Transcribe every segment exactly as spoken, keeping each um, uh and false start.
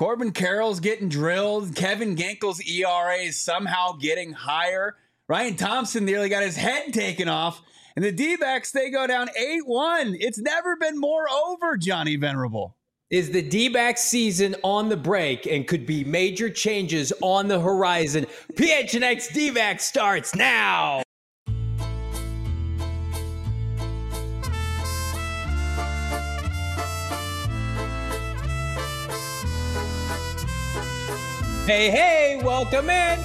Corbin Carroll's getting drilled. Kevin Ginkel's E R A is somehow getting higher. Ryan Thompson nearly got his head taken off. And the D-backs, they go down eight one. It's never been more over, Johnny Venerable. Is the D-backs season on the break and could be major changes on the horizon? P H N X D-backs starts now. Hey, hey, welcome in,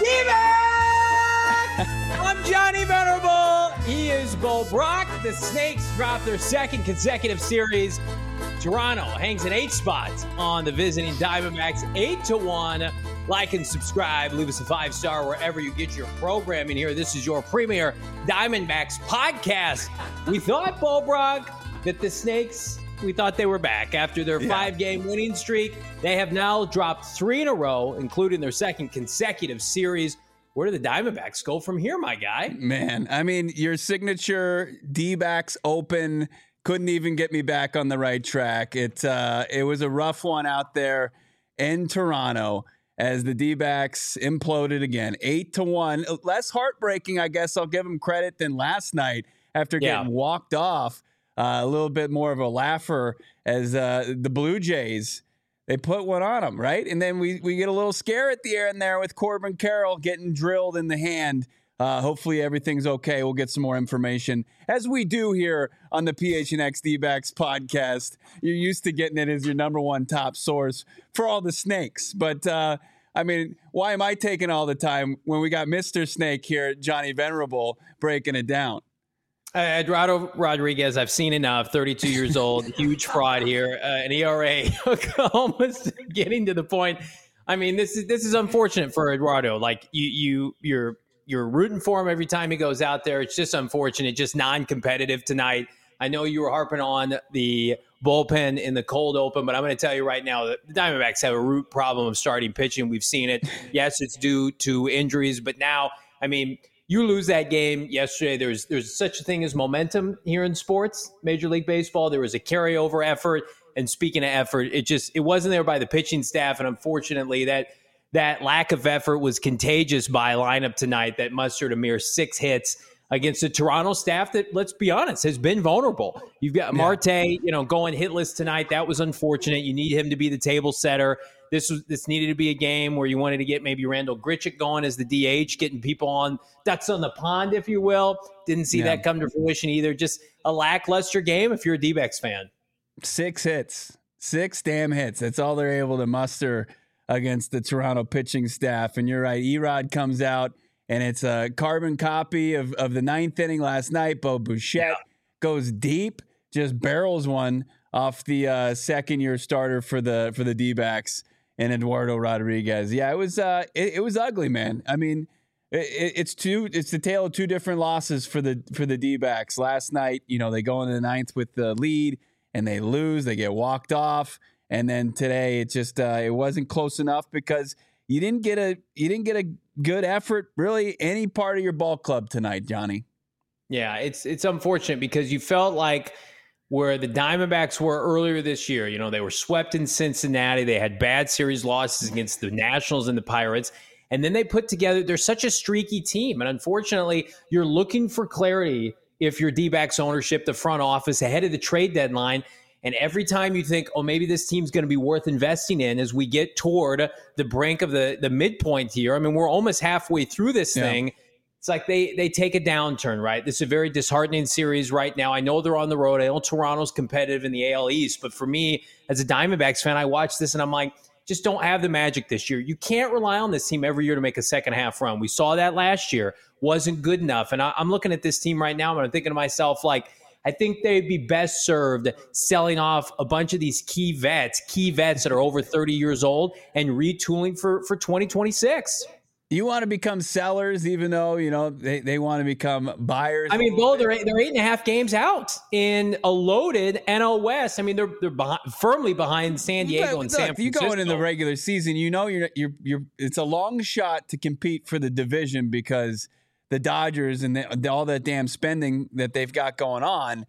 D-backs! I'm Johnny Venerable. He is Bo Brock. The Snakes dropped their second consecutive series. Toronto hangs in eight spots on the visiting Diamondbacks, eight to one. Like and subscribe. Leave us a five-star wherever you get your programming here. This is your premier Diamondbacks podcast. We thought, Bo Brock, that the Snakes, we thought they were back after their yeah. five-game winning streak. They have now dropped three in a row, including their second consecutive series. Where do the Diamondbacks go from here, my guy? Man, I mean, your signature D-backs open couldn't even get me back on the right track. It uh, it was a rough one out there in Toronto as the D-backs imploded again, eight to one. Less heartbreaking, I guess I'll give them credit, than last night after getting yeah. walked off. Uh, a little bit more of a laugher as uh, the Blue Jays, they put one on them, right? And then we we get a little scare at the end there with Corbin Carroll getting drilled in the hand. Uh, hopefully everything's okay. We'll get some more information, as we do here on the P H N X D-backs podcast. You're used to getting it as your number one top source for all the Snakes. But, uh, I mean, why am I taking all the time when we got Mister Snake here, Johnny Venerable, breaking it down? Uh, Eduardo Rodriguez, I've seen enough. thirty-two years old, huge fraud here. Uh, an E R A almost getting to the point. I mean, this is this is unfortunate for Eduardo. Like you, you, you're you're rooting for him every time he goes out there. It's just unfortunate, just non-competitive tonight. I know you were harping on the bullpen in the cold open, but I'm going to tell you right now that the Diamondbacks have a root problem of starting pitching. We've seen it. Yes, it's due to injuries, but now, I mean, you lose that game yesterday. There's there's such a thing as momentum here in sports, Major League Baseball. There was a carryover effort. And speaking of effort, it just it wasn't there by the pitching staff. And unfortunately, that that lack of effort was contagious by lineup tonight that mustered a mere six hits against a Toronto staff that, let's be honest, has been vulnerable. You've got Marte, you know, going hitless tonight. That was unfortunate. You need him to be the table setter. This was this needed to be a game where you wanted to get maybe Randall Grichuk going as the D H, getting people on ducks on the pond, if you will. Didn't see yeah. that come to fruition either. Just a lackluster game if you're a D-backs fan. Six hits, six damn hits. That's all they're able to muster against the Toronto pitching staff. And you're right, Erod comes out, and it's a carbon copy of, of the ninth inning last night. Bo Bichette yeah. goes deep, just barrels one off the uh, second-year starter for the for the D-backs. And Eduardo Rodriguez. Yeah, it was uh, it, it was ugly, man. I mean, it, it's two. It's the tale of two different losses for the for the D-backs. Last night, you know, they go into the ninth with the lead and they lose. They get walked off, and then today it just uh, it wasn't close enough because you didn't get a you didn't get a good effort really any part of your ball club tonight, Johnny. Yeah, it's it's unfortunate because you felt like where the Diamondbacks were earlier this year. You know, they were swept in Cincinnati. They had bad series losses against the Nationals and the Pirates. And then they put together, they're such a streaky team. And unfortunately, you're looking for clarity if you're D-backs ownership, the front office, ahead of the trade deadline. And every time you think, oh, maybe this team's going to be worth investing in as we get toward the brink of the, the midpoint here. I mean, we're almost halfway through this yeah. thing. It's like they they take a downturn, right? This is a very disheartening series right now. I know they're on the road. I know Toronto's competitive in the A L East. But for me, as a Diamondbacks fan, I watch this and I'm like, just don't have the magic this year. You can't rely on this team every year to make a second half run. We saw that last year. Wasn't good enough. And I, I'm looking at this team right now and I'm thinking to myself, like, I think they'd be best served selling off a bunch of these key vets, key vets that are over thirty years old and retooling for, for twenty twenty-six. You want to become sellers, even though, you know, they, they want to become buyers. I mean, Bo, they're eight, they're eight and a half games out in a loaded N L West. I mean, they're they're behind, firmly behind San Diego but, and look, San Francisco. You going in the regular season, you know, you're you're you're. It's a long shot to compete for the division because the Dodgers and the, all that damn spending that they've got going on.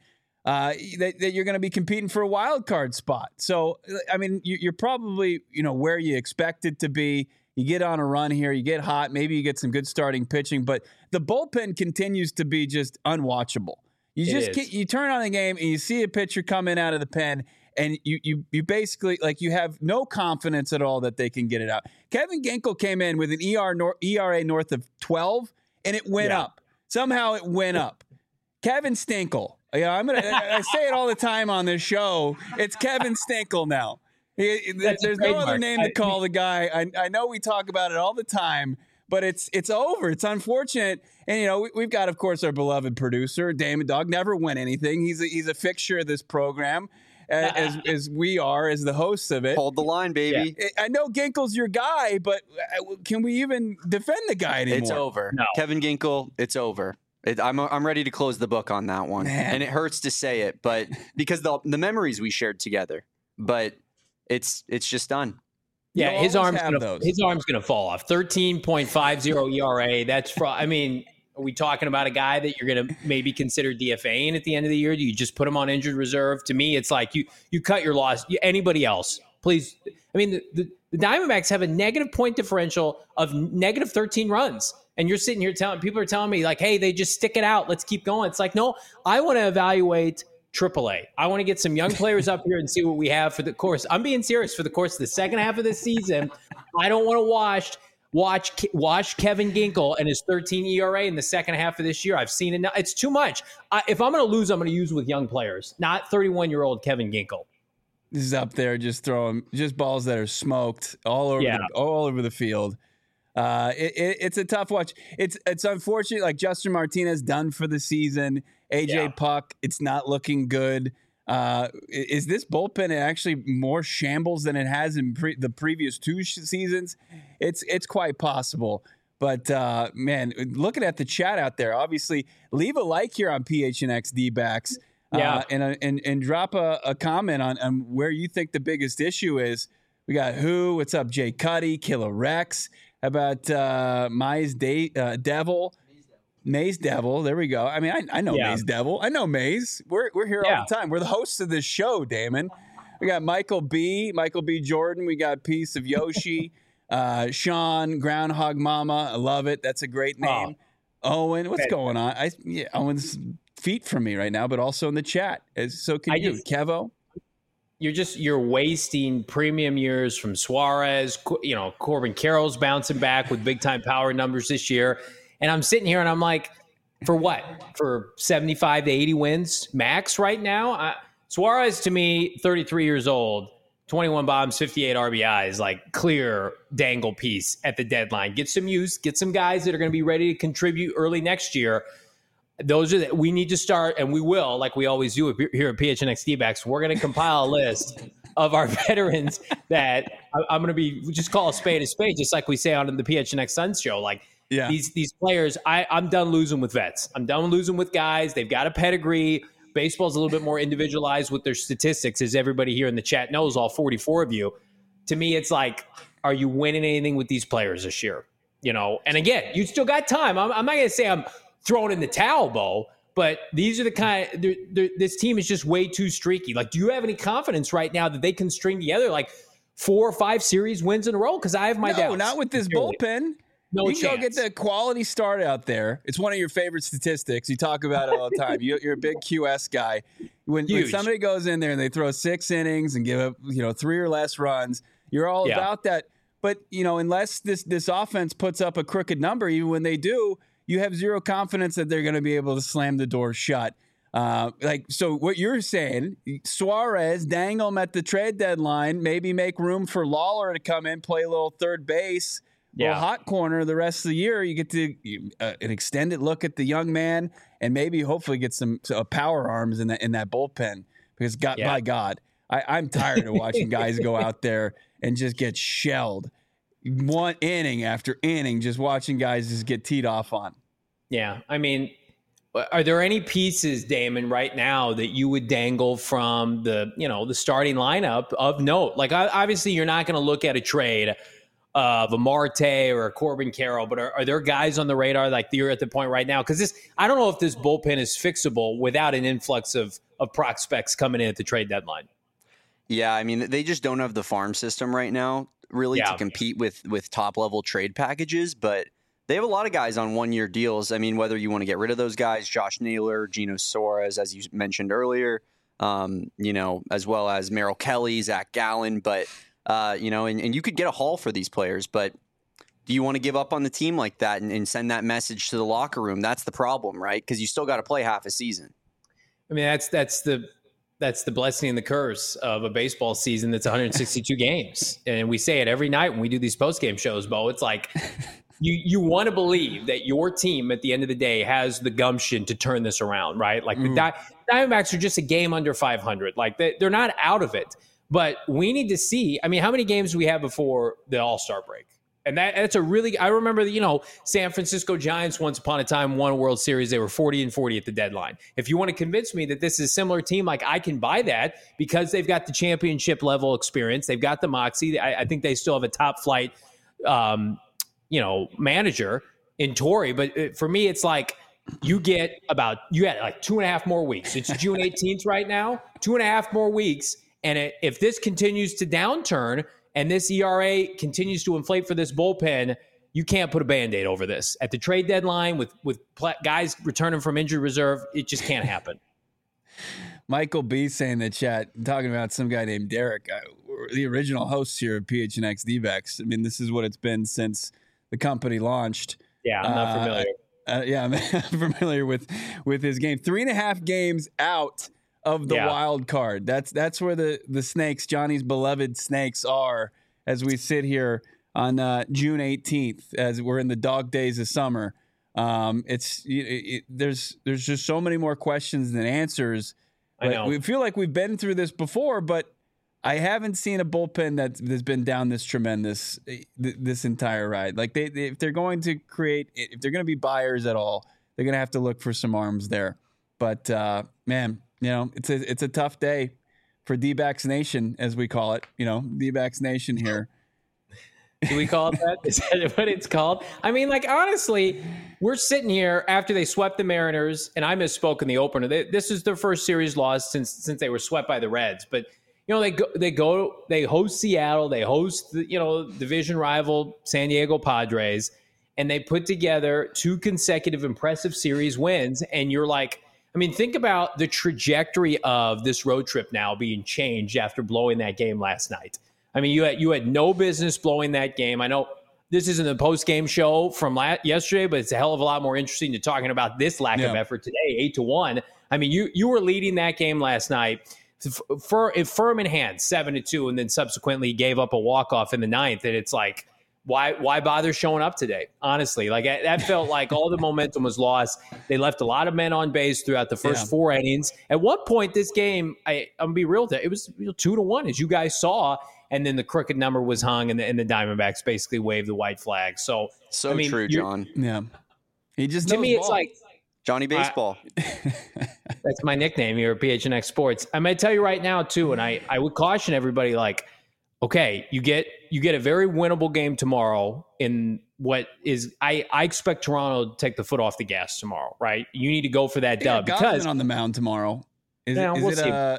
uh, that, that you're going to be competing for a wild card spot. So, I mean, you, you're probably, you know, where you expect it to be. You get on a run here, you get hot, maybe you get some good starting pitching, but the bullpen continues to be just unwatchable. You It just is. can't, you turn on the game and you see a pitcher come in out of the pen, and you you you basically, like, you have no confidence at all that they can get it out. Kevin Ginkel came in with an E R nor, E R A north of twelve, and it went Yeah. up. Somehow it went up. Kevin Stinkle. Yeah, I'm gonna. I say it all the time on this show. It's Kevin Stinkle now. He, That's a there's no other trademark. name to call the guy. I, I know we talk about it all the time, but it's it's over. It's unfortunate. And, you know, we, we've got, of course, our beloved producer, Damon Dog, never win anything. He's a, he's a fixture of this program, as, as, as we are, as the hosts of it. Hold the line, baby. I know Ginkel's your guy, but can we even defend the guy anymore? It's over. No. Kevin Ginkel, it's over. It, I'm I'm ready to close the book on that one. Man. And it hurts to say it, but because the the memories we shared together, but it's it's just done. Yeah, You'll his always arm's have gonna those. his arm's gonna fall off. thirteen point five oh E R A. That's for. I mean, are we talking about a guy that you're gonna maybe consider DFAing at the end of the year? Do you just put him on injured reserve? To me, it's like you you cut your loss. You, anybody else, please. I mean, the, the, the Diamondbacks have a negative point differential of negative thirteen runs. And you're sitting here telling people are telling me like, hey, they just stick it out. Let's keep going. It's like, no, I want to evaluate triple A. I want to get some young players up here and see what we have for the course. I'm being serious for the course of the second half of this season. I don't want to watch watch watch Kevin Ginkel and his thirteen E R A in the second half of this year. I've seen it now. It's too much. I, if I'm going to lose, I'm going to use with young players, not thirty-one-year-old Kevin Ginkel. This is up there just throwing just balls that are smoked all over Yeah. the, all over the field. Uh, it, it, it's a tough watch. It's it's unfortunate. Like Justin Martinez done for the season. A J Yeah. Puck, it's not looking good. Uh, is this bullpen actually more shambles than it has in pre- the previous two sh- seasons? It's it's quite possible. But uh, man, looking at the chat out there, obviously leave a like here on P H N X D-backs. Yeah. Uh, and, and and drop a, a comment on, on where you think the biggest issue is. We got who? What's up, Jay Cuddy, Killer Rex? How about uh, Maze De- uh, Devil? Maze Devil. There we go. I mean, I, I know Yeah. Maze Devil. I know Maze. We're we're here Yeah. all the time. We're the hosts of this show, Damon. We got Michael B. Michael B. Jordan. We got Piece of Yoshi. uh, Sean Groundhog Mama. I love it. That's a great name. Owen, what's Okay. going on? I yeah, Owen's feet from me right now, but also in the chat. As- So can I you, just- Kevo? You're just you're wasting premium years from Suarez. Co- You know, Corbin Carroll's bouncing back with big time power numbers this year, and I'm sitting here and I'm like, for what? For seventy-five to eighty wins max right now? I, Suarez to me, thirty-three years old, twenty-one bombs, fifty-eight R B Is, like clear dangle piece at the deadline. Get some use, get some guys that are going to be ready to contribute early next year. Those are the, we need to start, and we will, like we always do here at P H N X D-backs. We're going to compile a list of our veterans that I, I'm going to be just call a spade a spade, just like we say on the P H N X Suns show. Like Yeah. these these players, I, I'm done losing with vets. I'm done losing with guys. They've got a pedigree. Baseball's a little bit more individualized with their statistics, as everybody here in the chat knows. All forty-four of you. To me, it's like, are you winning anything with these players this year? You know, and again, you still got time. I'm, I'm not going to say I'm throwing in the towel, Bo, but these are the kind of, they're, they're, this team is just way too streaky. Like, do you have any confidence right now that they can string together like four or five series wins in a row? Because I have my No, doubts. not with this Sincerely. bullpen. No you can go chance. get the quality start out there. It's one of your favorite statistics. You talk about it all the time. You, you're a big Q S guy. When, when Huge. somebody goes in there and they throw six innings and give up, you know, three or less runs, you're all Yeah. about that. But, you know, unless this this offense puts up a crooked number, even when they do, you have zero confidence that they're going to be able to slam the door shut. Uh, like, so what you're saying, Suarez, dangle him at the trade deadline, maybe make room for Lawler to come in, play a little third base, little Yeah. hot corner the rest of the year. You get to uh, an extended look at the young man, and maybe hopefully get some uh, power arms in that in that bullpen. Because God, Yeah. by God, I, I'm tired of watching guys go out there and just get shelled, one inning after inning, just watching guys just get teed off on. Yeah. I mean, are there any pieces, Damon, right now that you would dangle from the, you know, the starting lineup of note? Like, I- obviously, you're not going to look at a trade of a Marte or a Corbin Carroll, but are, are there guys on the radar like you're at the point right now? Because this, I don't know if this bullpen is fixable without an influx of of prospects coming in at the trade deadline. Yeah, I mean, they just don't have the farm system right now, really, Yeah. to compete with with top level trade packages. But they have a lot of guys on one year deals. I mean, whether you want to get rid of those guys, Josh Naylor, Geno Suarez, as you mentioned earlier, um, you know, as well as Merrill Kelly, Zach Gallen, but uh, you know, and, and you could get a haul for these players, but do you want to give up on the team like that and, and send that message to the locker room? That's the problem, right? Because you still got to play half a season. I mean, that's that's the that's the blessing and the curse of a baseball season that's one hundred sixty-two games. And we say it every night when we do these post-game shows, Bo. It's like you you want to believe that your team at the end of the day has the gumption to turn this around, right? Like mm. the Di- Diamondbacks are just a game under five hundred. Like they, they're not out of it. But we need to see, I mean, how many games do we have before the All-Star break? And that, that's a really, I remember, you know, San Francisco Giants once upon a time won a World Series. They were forty and forty at the deadline. If you want to convince me that this is a similar team, like I can buy that because they've got the championship level experience. They've got the moxie. I, I think they still have a top flight, um, you know, manager in Torrey. But for me, it's like you get about, you had like two and a half more weeks. It's June eighteenth right now, two and a half more weeks. And it, if this continues to downturn and this E R A continues to inflate for this bullpen, you can't put a Band-Aid over this. At the trade deadline with, with guys returning from injury reserve, it just can't happen. Michael B. saying in the chat, talking about some guy named Derek, uh, the original hosts here of P H N X D-backs. I mean, this is what it's been since the company launched. Yeah, I'm not uh, familiar. Uh, yeah, I'm familiar with, with his game. Three and a half games out of the yeah. wild card. That's that's where the, the Snakes, Johnny's beloved Snakes, are as we sit here on uh, June eighteenth, as we're in the dog days of summer. Um, it's it, it, there's there's just so many more questions than answers. I know. We feel like we've been through this before, but I haven't seen a bullpen that's, that's been down this tremendous this entire ride. Like they, they if they're going to create, if they're going to be buyers at all, they're going to have to look for some arms there. But uh, man. You know, it's a it's a tough day for D-backs Nation, as we call it. You know, D-backs Nation here. Do we call it that? Is that what it's called? I mean, like, honestly, we're sitting here after they swept the Mariners, and I misspoke in the opener. They, this is their first series loss since since they were swept by the Reds. But, you know, they go, they go, they host Seattle, they host, the, you know, division rival San Diego Padres, and they put together two consecutive impressive series wins, and you're like, I mean, think about the trajectory of this road trip now being changed after blowing that game last night. I mean, you had you had no business blowing that game. I know this isn't a post-game show from la- yesterday, but it's a hell of a lot more interesting to talking about this lack yeah. of effort today, eight to one. I mean, you you were leading that game last night, for, firm in hand, seven to two, and then subsequently gave up a walk-off in the ninth, and it's like, Why why bother showing up today? Honestly, like that felt like all the momentum was lost. They left a lot of men on base throughout the first yeah. four innings. At one point, this game, I, I'm gonna be real, it was two to one, as you guys saw, and then the crooked number was hung, and the, and the Diamondbacks basically waved the white flag. So, so I mean, true, John. Yeah, he just to knows me, ball. It's like Johnny Baseball. I, that's my nickname here at P H N X Sports. I'm gonna tell you right now too, and I I would caution everybody, like, okay, you get you get a very winnable game tomorrow in what is I, I expect Toronto to take the foot off the gas tomorrow, right? You need to go for that dub because on the mound tomorrow. Is yeah, it, is we'll it see. uh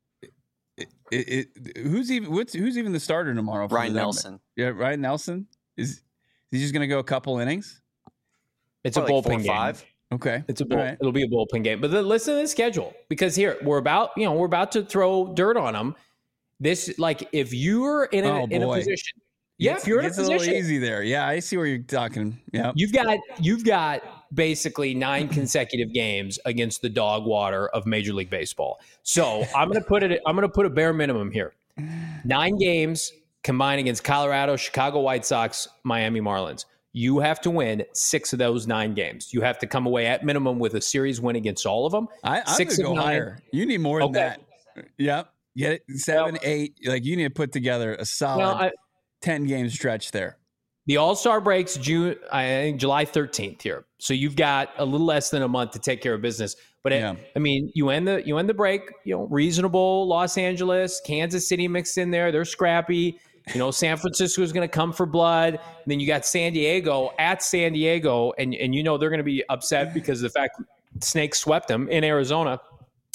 it, it, it, who's even what's who's even the starter tomorrow? Ryan Nelson. Yeah, Ryan Nelson. Is, is he just gonna go a couple innings? It's Probably a like bullpen four, game. Five. Okay. It's a bull, right. It'll be a bullpen game. But then listen to the schedule, because here we're about, you know, we're about to throw dirt on them. This, like, if you're in a, oh, in a position, yeah, gets, if you're in a it's position, a little easy there. Yeah, I see where you're talking. Yeah, you've got you've got basically nine consecutive games against the dog water of Major League Baseball. So I'm gonna put it. I'm gonna put a bare minimum here. Nine games combined against Colorado, Chicago White Sox, Miami Marlins. You have to win six of those nine games. You have to come away at minimum with a series win against all of them. I, I'm six gonna of go nine. higher. You need more than Okay. that. Yep. Get it seven, Well, eight. Like you need to put together a solid Well, I, ten game stretch there. the All-Star breaks June, I think July thirteenth here. So you've got a little less than a month to take care of business. But it, Yeah. I mean, you end the you end the break, you know, reasonable. Los Angeles, Kansas City mixed in there. They're scrappy. You know, San Francisco is going to come for blood. And then you got San Diego at San Diego, and and you know they're going to be upset because of the fact Snakes swept them in Arizona.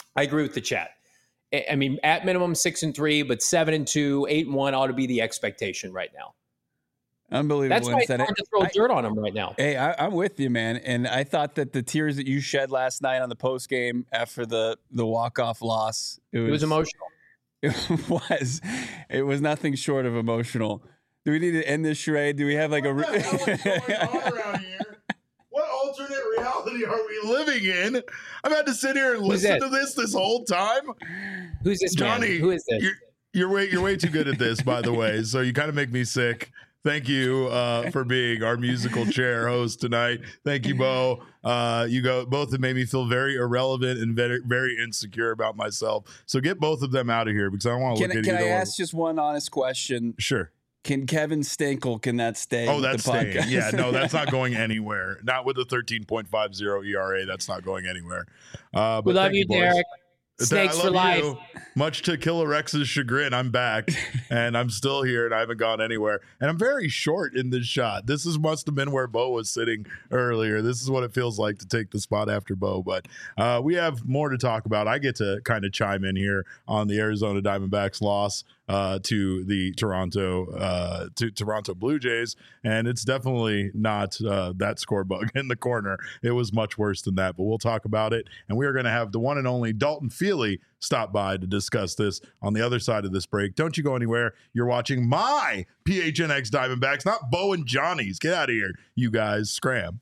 I agree with the chat. I I mean, at minimum six and three, but seven and two, eight and one ought to be the expectation right now. Unbelievable. That's why it's hard to throw I, dirt on them right now. Hey, I, I'm with you, man. And I thought that the tears that you shed last night on the post game after the the walk off loss, it was, It was emotional. It was. It was nothing short of emotional. Do we need to end this charade? Do we have like what a? What the hell is going on around here? What alternate reality are we living in? I've had to sit here and Who's listen that? to this this whole time. Who's this Johnny, man? Who is this? You're, you're way you're way too good at this, by the way. So you kind of make me sick. Thank you uh, for being our musical chair host tonight. Thank you, Bo. Uh, you go both have made me feel very irrelevant and very very insecure about myself. So get both of them out of here because I don't want to look Can, at can I either ask just one honest question? Sure. Can Kevin Stinkle, can that stay? Oh, with that's the staying. podcast? Yeah, no, that's not going anywhere. Not with a thirteen point five oh E R A. That's not going anywhere. Uh, but We love thank you, boys. Derek. I Snakes love for life. you. Much to Killer Rex's chagrin, I'm back and I'm still here and I haven't gone anywhere. And I'm very short in this shot. This is must have been where Bo was sitting earlier. This is what it feels like to take the spot after Bo. But uh, we have more to talk about. I get to kind of chime in here on the Arizona Diamondbacks loss uh, to the Toronto uh, to Toronto Blue Jays, and it's definitely not uh, that score bug in the corner. It was much worse than that. But we'll talk about it, and we are going to have the one and only Dalton Feely stop by to discuss this on the other side of this break. Don't you go anywhere. You're watching my P H N X Diamondbacks, not Bo and Johnny's. Get out of here, you guys. Scram.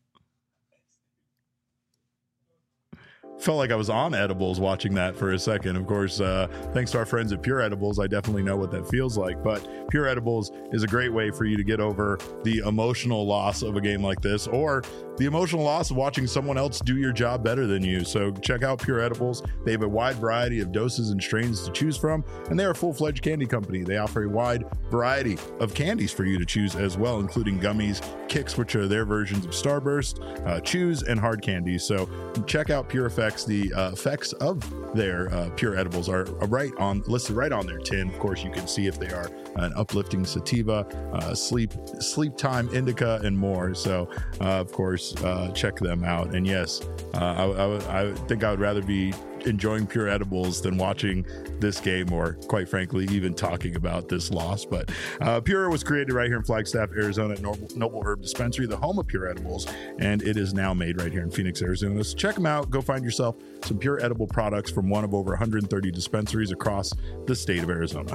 Felt like I was on edibles watching that for a second. Of course, uh, thanks to our friends at Pure Edibles, I definitely know what that feels like. But Pure Edibles is a great way for you to get over the emotional loss of a game like this, or the emotional loss of watching someone else do your job better than you. So check out Pure Edibles. They have a wide variety of doses and strains to choose from, and they're a full-fledged candy company. They offer a wide variety of candies for you to choose as well, including gummies, kicks, which are their versions of Starburst, uh, chews, and hard candies. So check out Pure Effects. The uh, effects of their uh, Pure Edibles are right on listed right on their tin. Of course, you can see if they are an uplifting sativa, uh, sleep sleep time indica, and more. So, uh, of course, uh, check them out. And yes, uh, I, I, I think I would rather be enjoying Pure Edibles than watching this game, or quite frankly even talking about this loss. But uh, Pure was created right here in Flagstaff, Arizona at Noble, Noble Herb Dispensary, the home of Pure Edibles, and it is now made right here in Phoenix, Arizona. So check them out. Go find yourself some Pure Edible products from one of over one hundred thirty dispensaries across the state of Arizona.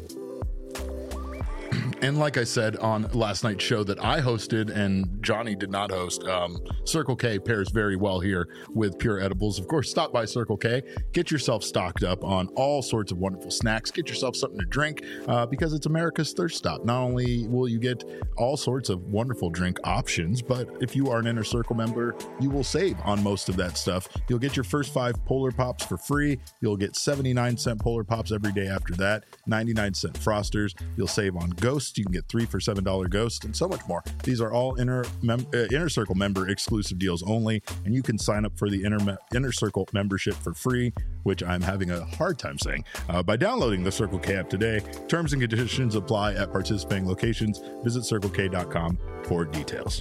And like I said on last night's show that I hosted and Johnny did not host, um, Circle K pairs very well here with Pure Edibles. Of course, stop by Circle K, get yourself stocked up on all sorts of wonderful snacks, get yourself something to drink uh, because it's America's thirst stop. Not only will you get all sorts of wonderful drink options, but if you are an Inner Circle member, you will save on most of that stuff. You'll get your first five Polar Pops for free. You'll get seventy-nine cent Polar Pops every day after that, ninety-nine cent Frosters. You'll save on Ghosts. You can get three for seven dollar Ghost and so much more. These are all Inner mem- uh, Inner Circle member exclusive deals only, and you can sign up for the Inner, me- Inner Circle membership for free, which I'm having a hard time saying, uh, by downloading the Circle K app today. Terms and conditions apply at participating locations. Visit circle k dot com for details.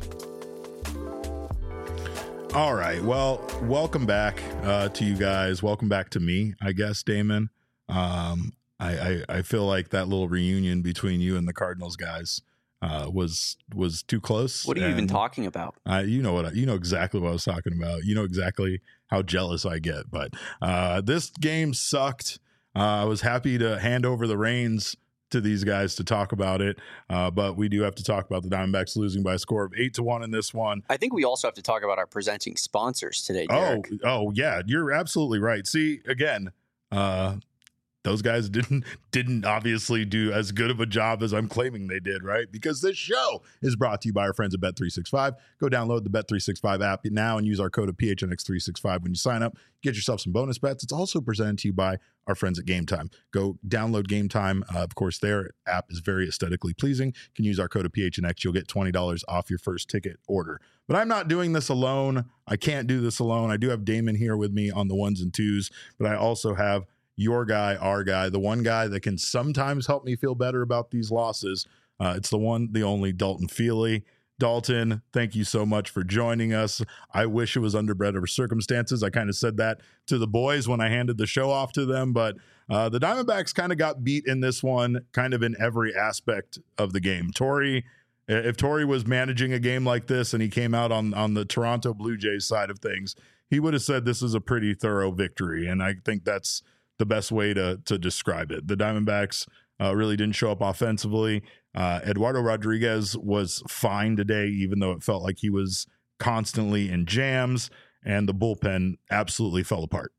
All right. Well, welcome back uh, to you guys. Welcome back to me, I guess, Damon. Um, I, I, I feel like that little reunion between you and the Cardinals guys uh, was was too close. What are you and even talking about? I, you know what I, you know exactly what I was talking about. You know exactly how jealous I get. But uh, this game sucked. Uh, I was happy to hand over the reins to these guys to talk about it, uh, but we do have to talk about the Diamondbacks losing by a score of eight to one in this one. I think we also have to talk about our presenting sponsors today, Derek. Oh, oh yeah, you're absolutely right. See, again, uh, those guys didn't didn't obviously do as good of a job as I'm claiming they did, right? Because this show is brought to you by our friends at Bet three sixty-five. Go download the Bet three sixty-five app now and use our code of P H N X three sixty-five when you sign up. Get yourself some bonus bets. It's also presented to you by our friends at Game Time. Go download Game Time. Uh, of course, their app is very aesthetically pleasing. You can use our code of P H N X. You'll get twenty dollars off your first ticket order. But I'm not doing this alone. I can't do this alone. I do have Damon here with me on the ones and twos, but I also have your guy, our guy, the one guy that can sometimes help me feel better about these losses. Uh, it's the one, the only Dalton Feely. Dalton, thank you so much for joining us. I wish it was under better circumstances. I kind of said that to the boys when I handed the show off to them, but uh, the Diamondbacks kind of got beat in this one, kind of in every aspect of the game. Torey, if Torey was managing a game like this and he came out on, on the Toronto Blue Jays side of things, he would have said this is a pretty thorough victory, and I think that's the best way to to describe it. The Diamondbacks uh, really didn't show up offensively. Uh, Eduardo Rodriguez was fine today, even though it felt like he was constantly in jams, and the bullpen absolutely fell apart.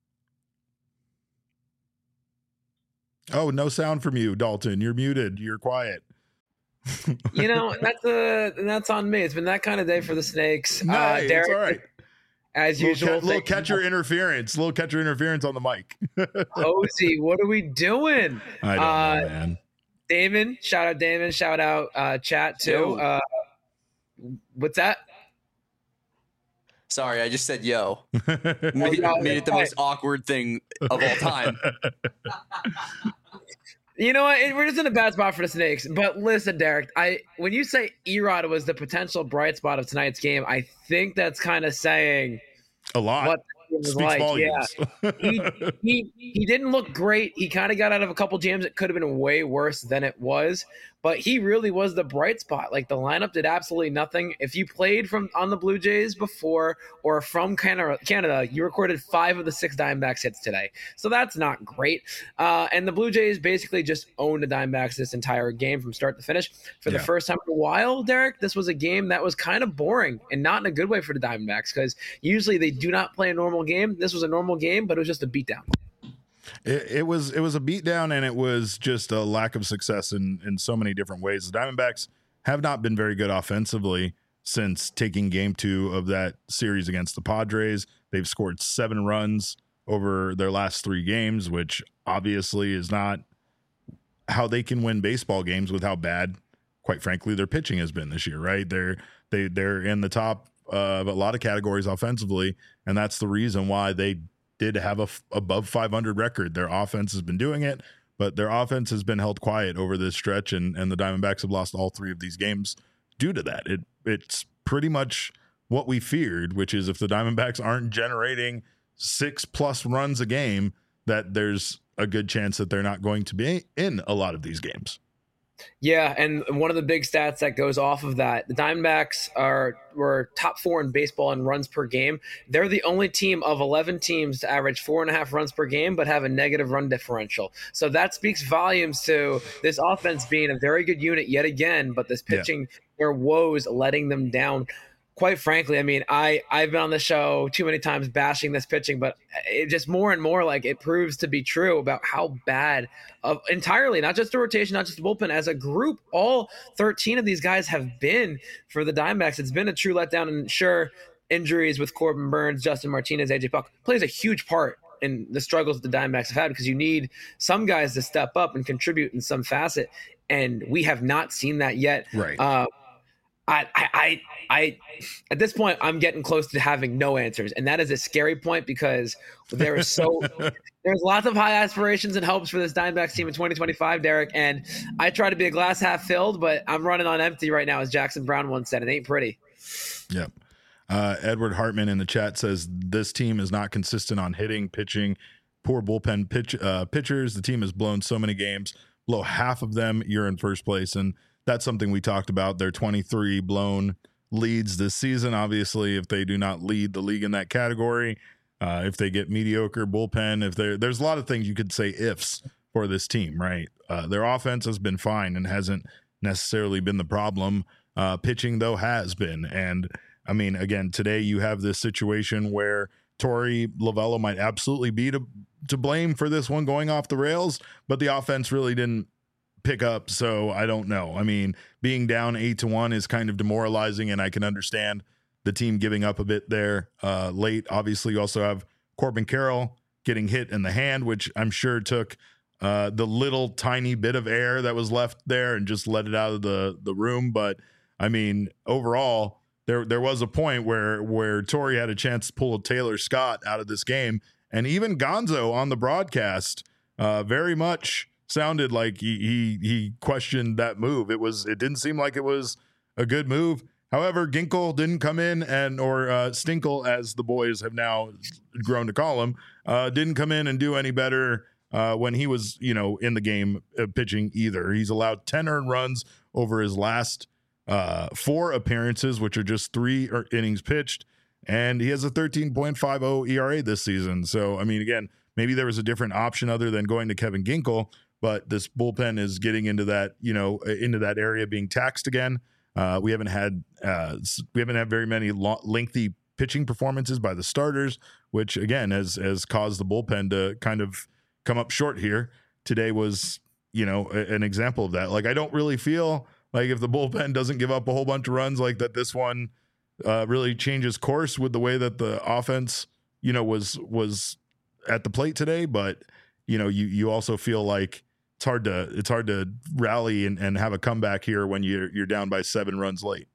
Oh, no sound from you, Dalton. You're muted. You're quiet. You know, that's uh, that's on me. It's been that kind of day for the Snakes. No, uh, it's Derek, all right. As little usual, ca- little catcher interference, little catcher interference on the mic. Posey, what are we doing? I don't uh, know, man. Damon, shout out Damon, shout out uh, chat too. Uh, what's that? Sorry, I just said yo. made, Oh, made it the most awkward thing of all time. You know what? We're just in a bad spot for the Snakes. But listen, Derek, I when you say Erod was the potential bright spot of tonight's game, I think that's kind of saying a lot. What it was Speaks like. volumes. Yeah, he, he he didn't look great. He kind of got out of a couple jams that could have been way worse than it was. But he really was the bright spot. Like, the lineup did absolutely nothing. If you played from on the Blue Jays before or from Canada, Canada, you recorded five of the six Diamondbacks hits today. So that's not great. Uh, and the Blue Jays basically just owned the Diamondbacks this entire game from start to finish. For the Yeah. first time in a while, Derek, this was a game that was kind of boring, and not in a good way for the Diamondbacks, because usually they do not play a normal game. This was a normal game, but it was just a beatdown. It, it was it was a beatdown, and it was just a lack of success in in so many different ways. The Diamondbacks have not been very good offensively since taking game two of that series against the Padres. They've scored seven runs over their last three games, which obviously is not how they can win baseball games with how bad, quite frankly, their pitching has been this year, right? They're they they're in the top of a lot of categories offensively, and that's the reason why they did have a f- above five hundred record. Their offense has been doing it, but their offense has been held quiet over this stretch, and, and the Diamondbacks have lost all three of these games due to that. It It's pretty much what we feared, which is if the Diamondbacks aren't generating six plus runs a game, that there's a good chance that they're not going to be in a lot of these games. Yeah, and one of the big stats that goes off of that, the Diamondbacks are were top four in baseball in runs per game. They're the only team of eleven teams to average four and a half runs per game, but have a negative run differential. So that speaks volumes to this offense being a very good unit yet again, but this pitching, yeah. their woes letting them down. Quite frankly, I mean, I, I've been on the show too many times bashing this pitching, but it just more and more like it proves to be true about how bad of entirely, not just the rotation, not just the bullpen, as a group, all thirteen of these guys have been for the Diamondbacks. It's been a true letdown, and sure, injuries with Corbin Burns, Justin Martinez, A J Puck plays a huge part in the struggles the Diamondbacks have had, because you need some guys to step up and contribute in some facet, and we have not seen that yet. Right. Uh, I, I, I, I, at this point, I'm getting close to having no answers, and that is a scary point, because there is so there's lots of high aspirations and hopes for this Diamondbacks team in twenty twenty-five, Derek. And I try to be a glass half filled, but I'm running on empty right now, as Jackson Brown once said. It ain't pretty. Yep. Uh, Edward Hartman in the chat says this team is not consistent on hitting, pitching, poor bullpen pitch uh, pitchers. The team has blown so many games. Blow half of them, you're in first place, and that's something we talked about. Their twenty-three blown leads this season. Obviously, if they do not lead the league in that category, uh, if they get mediocre bullpen, if they there's a lot of things you could say ifs for this team, right? Uh, their offense has been fine and hasn't necessarily been the problem. Uh, pitching, though, has been. And, I mean, again, today you have this situation where Torey Lovullo might absolutely be to, to blame for this one going off the rails, but the offense really didn't pick up. So I don't know. I mean, being down eight to one is kind of demoralizing, and I can understand the team giving up a bit there uh, late. Obviously, you also have Corbin Carroll getting hit in the hand, which I'm sure took uh, the little tiny bit of air that was left there and just let it out of the the room. But I mean, overall, there there was a point where where Torey had a chance to pull a Taylor Scott out of this game, and even Gonzo on the broadcast uh, very much sounded like he, he he questioned that move. It was it didn't seem like it was a good move. However, Ginkel didn't come in and or uh, Stinkle, as the boys have now grown to call him, uh, didn't come in and do any better uh, when he was, you know, in the game uh, pitching either. He's allowed ten earned runs over his last uh, four appearances, which are just three innings pitched, and he has a thirteen point five oh E R A this season. So, I mean, again, maybe there was a different option other than going to Kevin Ginkel, but this bullpen is getting into that, you know, into that area being taxed again. Uh, we haven't had uh, we haven't had very many long, lengthy pitching performances by the starters, which again has has caused the bullpen to kind of come up short here. Today was, you know, a, an example of that. Like, I don't really feel like if the bullpen doesn't give up a whole bunch of runs, like that this one uh, really changes course with the way that the offense, you know, was was at the plate today. But you know, you you also feel like it's hard to it's hard to rally and, and have a comeback here when you're you're down by seven runs late.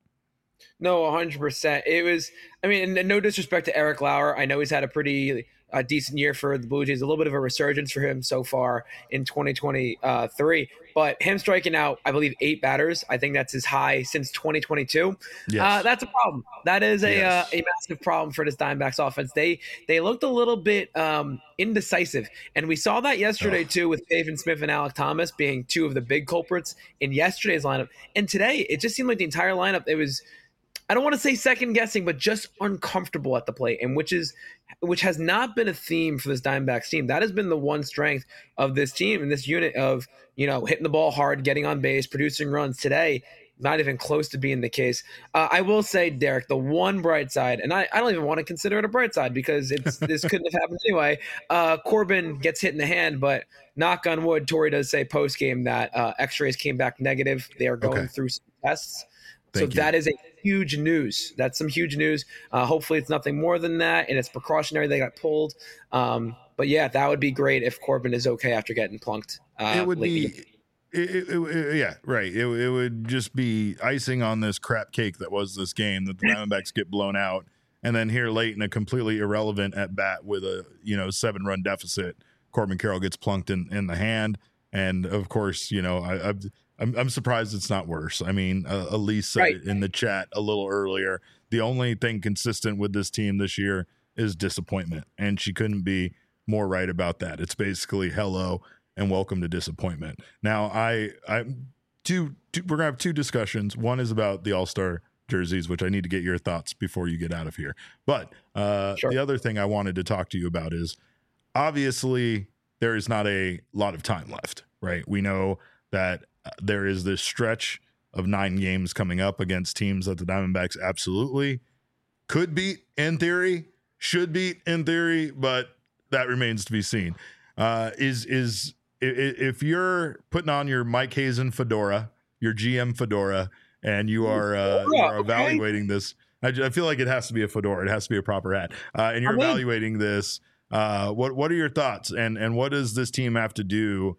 No, one hundred percent. It was, I mean, and no disrespect to Eric Lauer. I know he's had a pretty uh, decent year for the Blue Jays, a little bit of a resurgence for him so far in twenty twenty-three. But him striking out, I believe, eight batters, I think that's his high since twenty twenty-two. Yes. Uh, that's a problem. That is a Yes. uh, a massive problem for this Diamondbacks offense. They they looked a little bit um, indecisive, and we saw that yesterday Ugh. too with Pavin Smith and Alec Thomas being two of the big culprits in yesterday's lineup. And today, it just seemed like the entire lineup, it was, I don't want to say second guessing, but just uncomfortable at the plate, and which is which has not been a theme for this Diamondbacks team. That has been the one strength of this team and this unit of, you know, hitting the ball hard, getting on base, producing runs. Today, not even close to being the case. Uh, I will say, Derek, the one bright side, and I, I don't even want to consider it a bright side because it's this couldn't have happened anyway. Uh, Corbin gets hit in the hand, but knock on wood, Torey does say post game that uh, X-rays came back negative. They are going Okay. through some tests. Thank so you. that is a huge news. That's some huge news. Uh, hopefully it's nothing more than that, and it's precautionary. They got pulled. Um, but yeah, that would be great if Corbin is okay after getting plunked. Uh, it would late. be it, it, it, yeah, right. It, it would just be icing on this crap cake that was this game that the Diamondbacks get blown out, and then here late in a completely irrelevant at bat with a, you know, seven run deficit, Corbin Carroll gets plunked in, in the hand, and of course, you know, I, I've, I'm I'm surprised it's not worse. I mean, uh, Elise said Right. it in the chat a little earlier. The only thing consistent with this team this year is disappointment, and she couldn't be more right about that. It's basically hello and welcome to disappointment. Now, I I two, two we're gonna have two discussions. One is about the All-Star jerseys, which I need to get your thoughts before you get out of here. But uh, Sure. the other thing I wanted to talk to you about is obviously there is not a lot of time left, right? We know that uh, there is this stretch of nine games coming up against teams that the Diamondbacks absolutely could beat in theory, should beat in theory, but that remains to be seen. Uh, is is i- i- if you're putting on your Mike Hazen fedora, your G M fedora, and you are uh, you are okay. evaluating this, I, ju- I feel like it has to be a fedora. It has to be a proper hat, uh, and you're I'm in. evaluating this. Uh, what what are your thoughts, and and what does this team have to do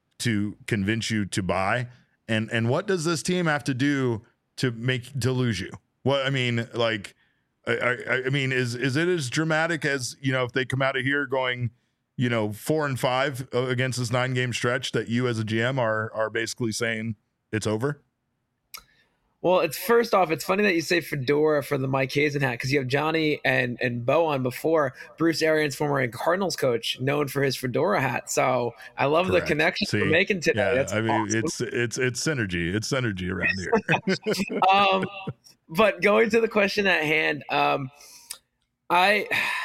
to convince you to buy, and and what does this team have to do to make to lose you? What I mean, like, I, I, I mean, is is it as dramatic as, you know, if they come out of here going, you know, four and five uh, against this nine game stretch, that you as a G M are are basically saying it's over? Well, it's first off, it's funny that you say fedora for the Mike Hazen hat because you have Johnny and and Bo on before. Bruce Arians, former Cardinals coach, known for his fedora hat. So I love Correct. the connection See? we're making today. Yeah, That's I mean, awesome. it's it's it's synergy. It's synergy around here. um, but going to the question at hand, um, I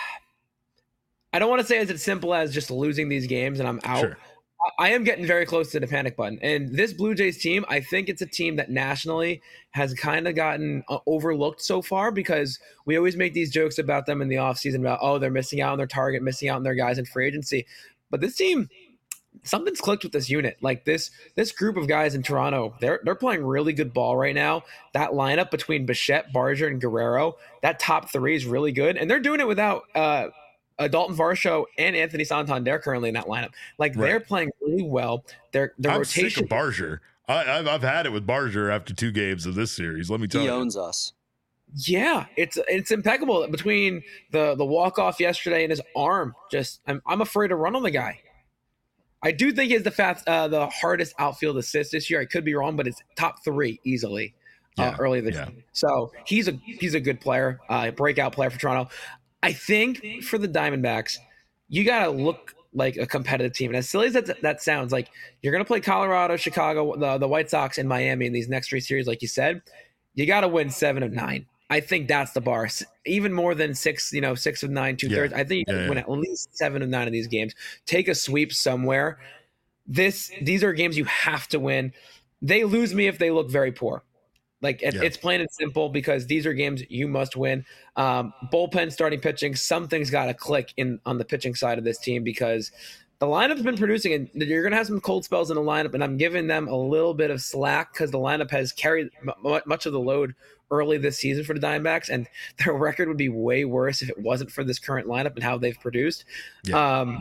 I don't want to say it's as simple as just losing these games and I'm out. Sure. I am getting very close to the panic button. And this Blue Jays team, I think it's a team that nationally has kind of gotten uh, overlooked so far because we always make these jokes about them in the offseason about, oh, they're missing out on their target, missing out on their guys in free agency. But this team, something's clicked with this unit. Like this this group of guys in Toronto, they're they're playing really good ball right now. That lineup between Bichette, Barger, and Guerrero, that top three is really good. And they're doing it without uh, uh, Dalton Varsho and Anthony Santander currently in that lineup. Like they're Right. playing really well. Their their I'm sick rotation. of Barger. I, I've I've had it with Barger after two games of this series. Let me tell He you. owns us. Yeah, it's it's impeccable between the the walk off yesterday and his arm. Just I'm I'm afraid to run on the guy. I do think he has the fast uh, the hardest outfield assist this year. I could be wrong, but it's top three easily. uh, Yeah, early this yeah. year. So he's a he's a good player, uh, a breakout player for Toronto. I think for the Diamondbacks, you got to look like a competitive team. And as silly as that, that sounds, like you're going to play Colorado, Chicago, the, the White Sox, and Miami in these next three series, like you said, you got to win seven of nine. I think that's the bar. Even more than six, you know, six of nine, two thirds. Yeah. I think you got to Yeah, win yeah. at least seven of nine of these games. Take a sweep somewhere. This these are games you have to win. They lose me if they look very poor. Like it, Yeah. it's plain and simple because these are games you must win. Um, bullpen starting pitching, something's got to click in on the pitching side of this team because the lineup's been producing, and you're going to have some cold spells in the lineup. And I'm giving them a little bit of slack because the lineup has carried m- much of the load early this season for the Diamondbacks, and their record would be way worse if it wasn't for this current lineup and how they've produced. Yeah. Um,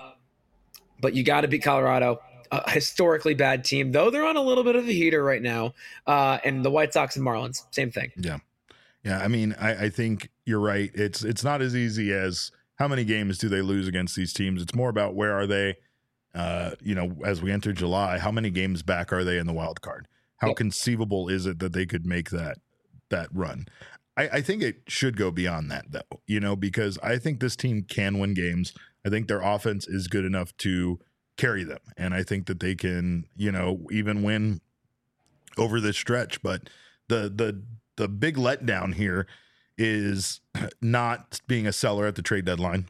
but you got to beat Colorado. A historically bad team, though they're on a little bit of a heater right now. Uh, and the White Sox and Marlins, same thing. Yeah. Yeah. I mean, I, I think you're right. It's it's not as easy as how many games do they lose against these teams. It's more about where are they, uh, you know, as we enter July, how many games back are they in the wild card? How Yep. conceivable is it that they could make that that run? I, I think it should go beyond that, though, you know, because I think this team can win games. I think their offense is good enough to carry them. And I think that they can, you know, even win over this stretch. But the the the big letdown here is not being a seller at the trade deadline,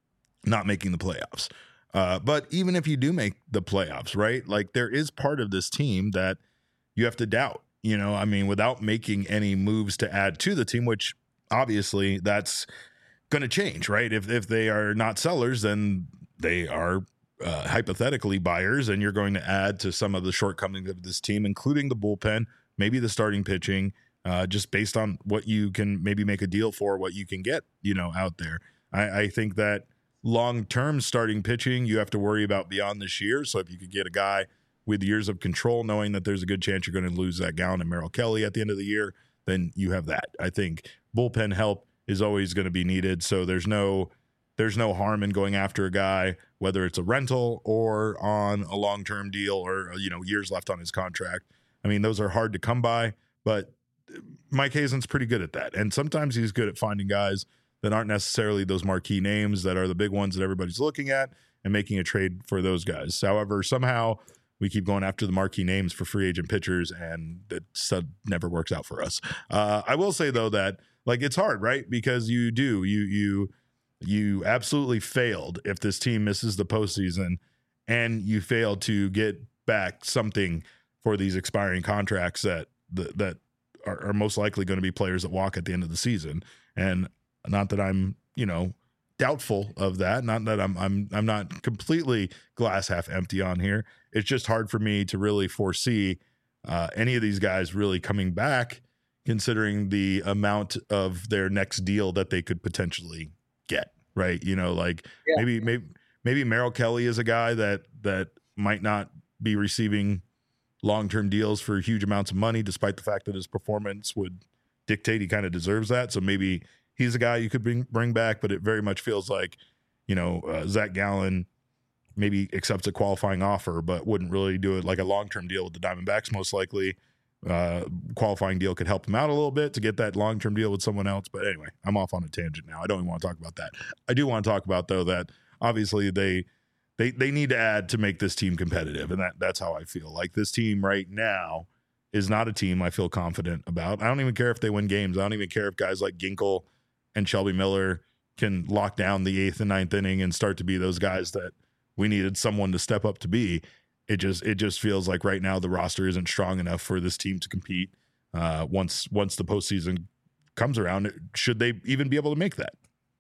not making the playoffs. Uh, but even if you do make the playoffs, right? Like there is part of this team that you have to doubt, you know, I mean, without making any moves to add to the team, which obviously that's going to change, right? If if they are not sellers, then they are Uh, hypothetically buyers, and you're going to add to some of the shortcomings of this team, including the bullpen, maybe the starting pitching, uh, just based on what you can maybe make a deal for, what you can get, you know, out there. I, I think that long-term starting pitching, you have to worry about beyond this year. So if you could get a guy with years of control, knowing that there's a good chance you're going to lose Zach Gallen and Merrill Kelly at the end of the year, then you have that. I think bullpen help is always going to be needed. So there's no There's no harm in going after a guy, whether it's a rental or on a long-term deal or, you know, years left on his contract. I mean, those are hard to come by, but Mike Hazen's pretty good at that. And sometimes he's good at finding guys that aren't necessarily those marquee names that are the big ones that everybody's looking at and making a trade for those guys. However, somehow we keep going after the marquee names for free agent pitchers, and that never works out for us. Uh, I will say, though, that, like, it's hard, right? Because you do, you, you, You absolutely failed if this team misses the postseason and you fail to get back something for these expiring contracts that that are, are most likely going to be players that walk at the end of the season. And not that I'm, you know, doubtful of that. Not that I'm I'm I'm not completely glass half empty on here. It's just hard for me to really foresee uh, any of these guys really coming back, considering the amount of their next deal that they could potentially get, right? You know, like Yeah. maybe maybe maybe Merrill Kelly is a guy that that might not be receiving long-term deals for huge amounts of money, despite the fact that his performance would dictate he kind of deserves that. So maybe he's a guy you could bring bring back, but it very much feels like, you know, uh, Zach Gallen maybe accepts a qualifying offer, but wouldn't really do it like a long-term deal with the Diamondbacks, most likely. Uh, qualifying deal could help him out a little bit to get that long-term deal with someone else. But anyway, I'm off on a tangent now. I don't even want to talk about that. I do want to talk about, though, that obviously they they they need to add to make this team competitive, and that that's how I feel. Like this team right now is not a team I feel confident about. I don't even care if they win games. I don't even care if guys like Ginkel and Shelby Miller can lock down the eighth and ninth inning and start to be those guys that we needed someone to step up to be. It just it just feels like right now the roster isn't strong enough for this team to compete. Uh, once once the postseason comes around, should they even be able to make that?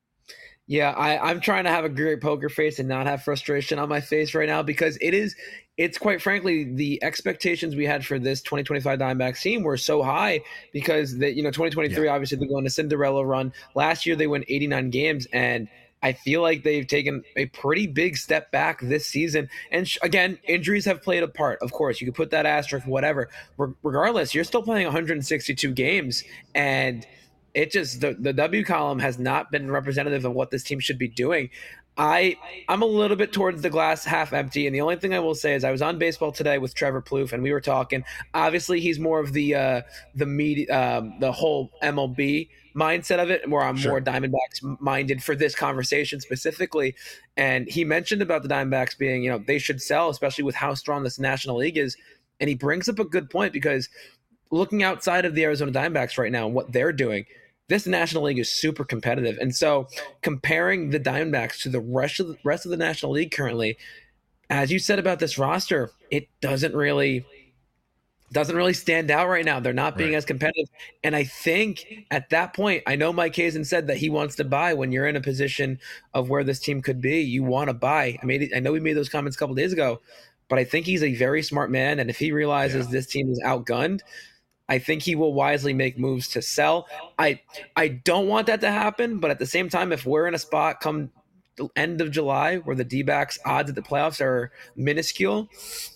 Yeah, I, I'm trying to have a great poker face and not have frustration on my face right now because it is, it's quite frankly, the expectations we had for this twenty twenty-five Diamondbacks team were so high because the, you know, twenty twenty-three, Yeah. obviously they go on a Cinderella run. Last year they won eighty-nine games, and I feel like they've taken a pretty big step back this season. And sh- again, injuries have played a part. Of course, you could put that asterisk, whatever. Re- regardless, you're still playing one hundred sixty-two games, and it just the, the W column has not been representative of what this team should be doing. I I'm a little bit towards the glass half empty, and the only thing I will say is I was on Baseball Today with Trevor Plouffe, and we were talking. Obviously, he's more of the uh, the media, um, the whole M L B mindset of it, where I'm Sure. more Diamondbacks minded for this conversation specifically. And he mentioned about the Diamondbacks being, you know, they should sell, especially with how strong this National League is. And he brings up a good point because looking outside of the Arizona Diamondbacks right now and what they're doing, this National League is super competitive. And so comparing the Diamondbacks to the rest of the rest of the National League currently, as you said about this roster, it doesn't really doesn't really stand out right now. They're not being Right. as competitive. And I think at that point, I know Mike Hazen said that he wants to buy when you're in a position of where this team could be. You want to buy. I made I know we made those comments a couple days ago, but I think he's a very smart man. And if he realizes Yeah. this team is outgunned, I think he will wisely make moves to sell. I I don't want that to happen, but at the same time, if we're in a spot come the end of July where the D-backs odds at the playoffs are minuscule,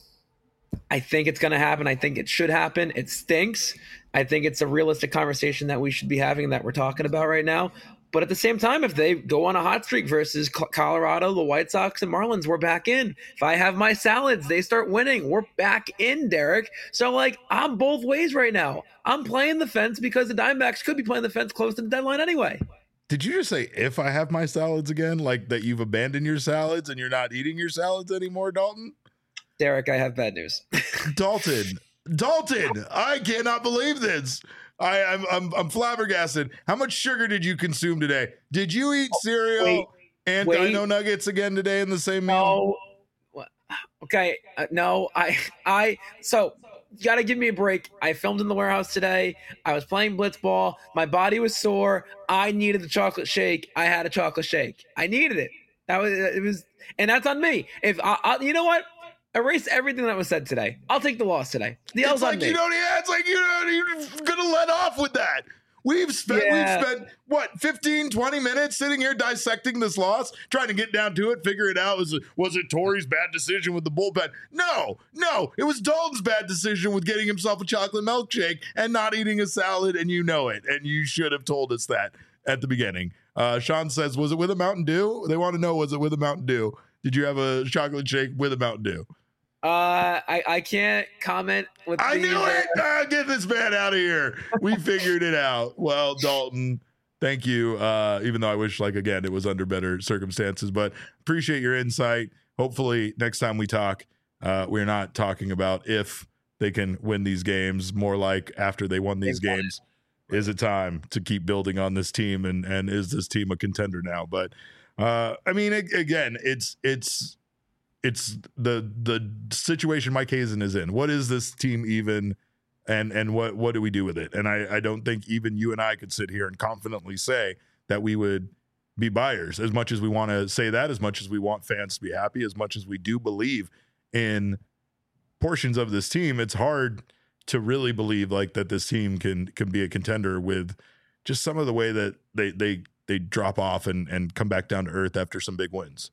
I think it's going to happen. I think it should happen. It stinks. I think it's a realistic conversation that we should be having that we're talking about right now. But at the same time, if they go on a hot streak versus Colorado, the White Sox, and Marlins, we're back in. If I have my salads, they start winning. We're back in, Derek. So, like, I'm both ways right now. I'm playing the fence because the Diamondbacks could be playing the fence close to the deadline anyway. Did you just say if I have my salads again, like that you've abandoned your salads and you're not eating your salads anymore, Dalton? Derek, I have bad news. Dalton, Dalton, I cannot believe this. I, I'm, I'm I'm flabbergasted. How much sugar did you consume today? Did you eat cereal wait, and wait. Dino Nuggets again today in the same meal? No. What? Okay. Uh, no, I, I, so you got to give me a break. I filmed in the warehouse today. I was playing blitzball. My body was sore. I needed the chocolate shake. I had a chocolate shake. I needed it. That was, it was, and that's on me. If I, I you know what? Erase everything that was said today. I'll take the loss today. The L's It's on like me. you don't. Yeah, it's like you know you're gonna let off with that. We've spent Yeah. we've spent what fifteen, twenty minutes sitting here dissecting this loss, trying to get down to it, figure it out. Was it was it Torrey's bad decision with the bullpen? No, no, it was Dalton's bad decision with getting himself a chocolate milkshake and not eating a salad, and you know it, and you should have told us that at the beginning. Uh, Sean says, was it with a Mountain Dew? They want to know, was it with a Mountain Dew? Did you have a chocolate shake with a Mountain Dew? Uh, I, I can't comment with I the, knew it. Ah, get this man out of here. We figured it out. Well, Dalton, thank you. Uh, even though I wish, like, again, it was under better circumstances, but appreciate your insight. Hopefully next time we talk, uh, we're not talking about if they can win these games, more like after they won these games. Is it time to keep building on this team? And, and is this team a contender now? But uh, I mean, it, again, it's, it's, It's the the situation Mike Hazen is in. What is this team even, and and what what do we do with it? And I, I don't think even you and I could sit here and confidently say that we would be buyers, as much as we want to say that, as much as we want fans to be happy, as much as we do believe in portions of this team. It's hard to really believe like that this team can can be a contender with just some of the way that they they they drop off and and come back down to earth after some big wins.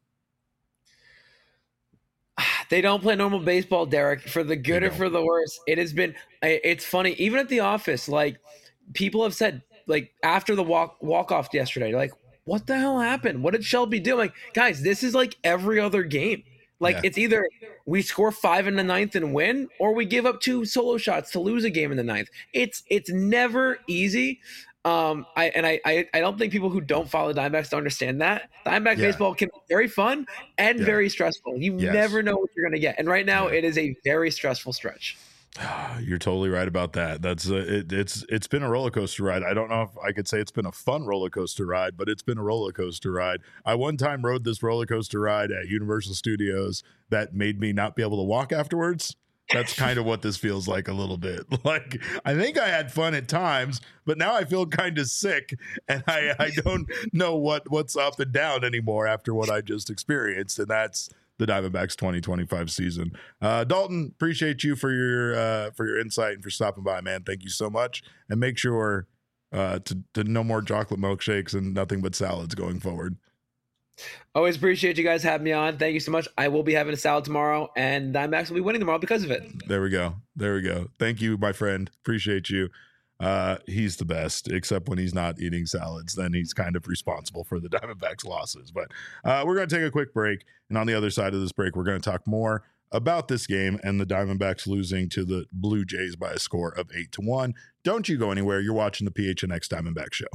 They don't play normal baseball, Derek, for the good They or don't. for the worse. It has been, it's funny, even at the office, like people have said, like after the walk walk off yesterday, like, what the hell happened? What did Shelby do? I'm like, guys, this is like every other game. Like Yeah. it's either we score five in the ninth and win, or we give up two solo shots to lose a game in the ninth. It's it's never easy. Um, I and I, I I don't think people who don't follow Diamondbacks don't understand that. Diamondback Yeah. baseball can be very fun and Yeah. very stressful. You Yes. never know what you're gonna get. And right now, Yeah. it is a very stressful stretch. You're totally right about that. That's uh, it, it's it's been a roller coaster ride. I don't know if I could say it's been a fun roller coaster ride, but it's been a roller coaster ride. I one time rode this roller coaster ride at Universal Studios that made me not be able to walk afterwards. That's kind of what this feels like a little bit. Like, I think I had fun at times, but now I feel kind of sick, and I, I don't know what what's up and down anymore after what I just experienced, and that's the Diamondbacks twenty twenty-five season. Uh, Dalton, appreciate you for your uh, for your insight and for stopping by, man. Thank you so much, and make sure uh, to to no more chocolate milkshakes and nothing but salads going forward. Always appreciate you guys having me on. Thank you so much. I will be having a salad tomorrow, and Diamondbacks will be winning tomorrow because of it. There we go. There we go. Thank you, my friend. Appreciate you. Uh, he's the best, except when he's not eating salads. Then he's kind of responsible for the Diamondbacks' losses. But uh, we're going to take a quick break. And on the other side of this break, we're going to talk more about this game and the Diamondbacks losing to the Blue Jays by a score of eight to one. Don't you go anywhere. You're watching the P H N X Diamondback Show.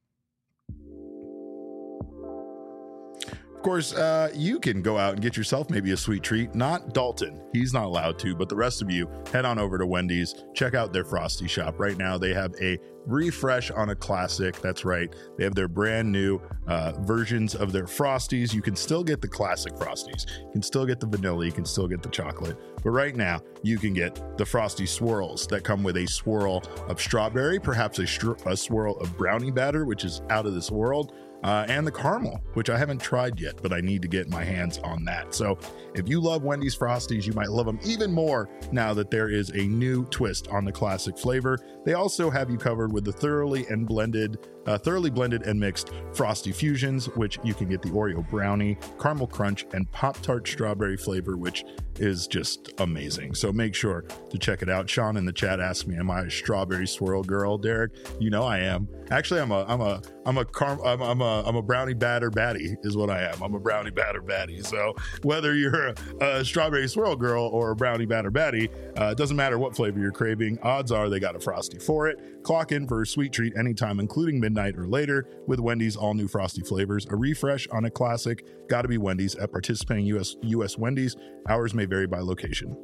Of course, uh, you can go out and get yourself maybe a sweet treat. Not Dalton. He's not allowed to, but the rest of you, head on over to Wendy's. Check out their Frosty shop. Right now, they have a refresh on a classic. That's right. They have their brand new uh, versions of their Frosties. You can still get the classic Frosties. You can still get the vanilla. You can still get the chocolate. But right now, you can get the Frosty Swirls that come with a swirl of strawberry, perhaps a, str- a swirl of brownie batter, which is out of this world. Uh, and the caramel, which I haven't tried yet, but I need to get my hands on that. So if you love Wendy's Frosties, you might love them even more now that there is a new twist on the classic flavor. They also have you covered with the thoroughly and blended, uh, thoroughly blended and mixed Frosty Fusions, which you can get the Oreo brownie, caramel crunch, and Pop-Tart strawberry flavor, which is just amazing. So make sure to check it out. Sean in the chat asked me, am I a strawberry swirl girl, Derek? You know I am. Actually, I'm a, I'm a, I'm a, car- I'm, I'm a, I'm a brownie batter baddie is what I am. I'm a brownie batter baddie. So whether you're a, a strawberry swirl girl or a brownie batter baddie, uh, it doesn't matter what flavor you're craving. Odds are they got a Frosty for it. Clock in for a sweet treat anytime, including midnight or later, with Wendy's all new Frosty flavors. A refresh on a classic. Got to be Wendy's at participating U S U S Wendy's. Hours may vary by location.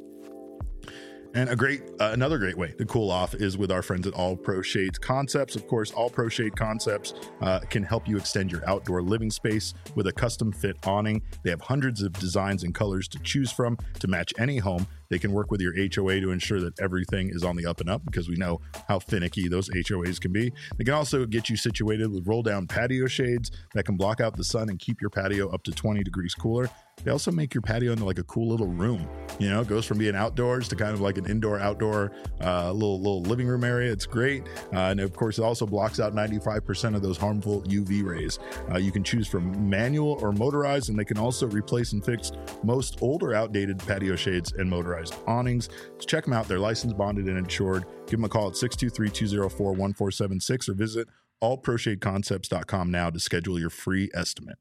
And a great, uh, another great way to cool off is with our friends at All Pro Shades Concepts. Of course, All Pro Shade Concepts uh, can help you extend your outdoor living space with a custom fit awning. They have hundreds of designs and colors to choose from to match any home. They can work with your H O A to ensure that everything is on the up and up, because we know how finicky those H O As can be. They can also get you situated with roll down patio shades that can block out the sun and keep your patio up to twenty degrees cooler. They also make your patio into like a cool little room. You know, it goes from being outdoors to kind of like an indoor outdoor uh, little little living room area. It's great. Uh, and of course, it also blocks out ninety-five percent of those harmful U V rays. Uh, you can choose from manual or motorized, and they can also replace and fix most older outdated patio shades and motorized awnings. So check them out. They're licensed, bonded, and insured. Give them a call at six two three, two zero four, one four seven six or visit all pro shade concepts dot com now to schedule your free estimate.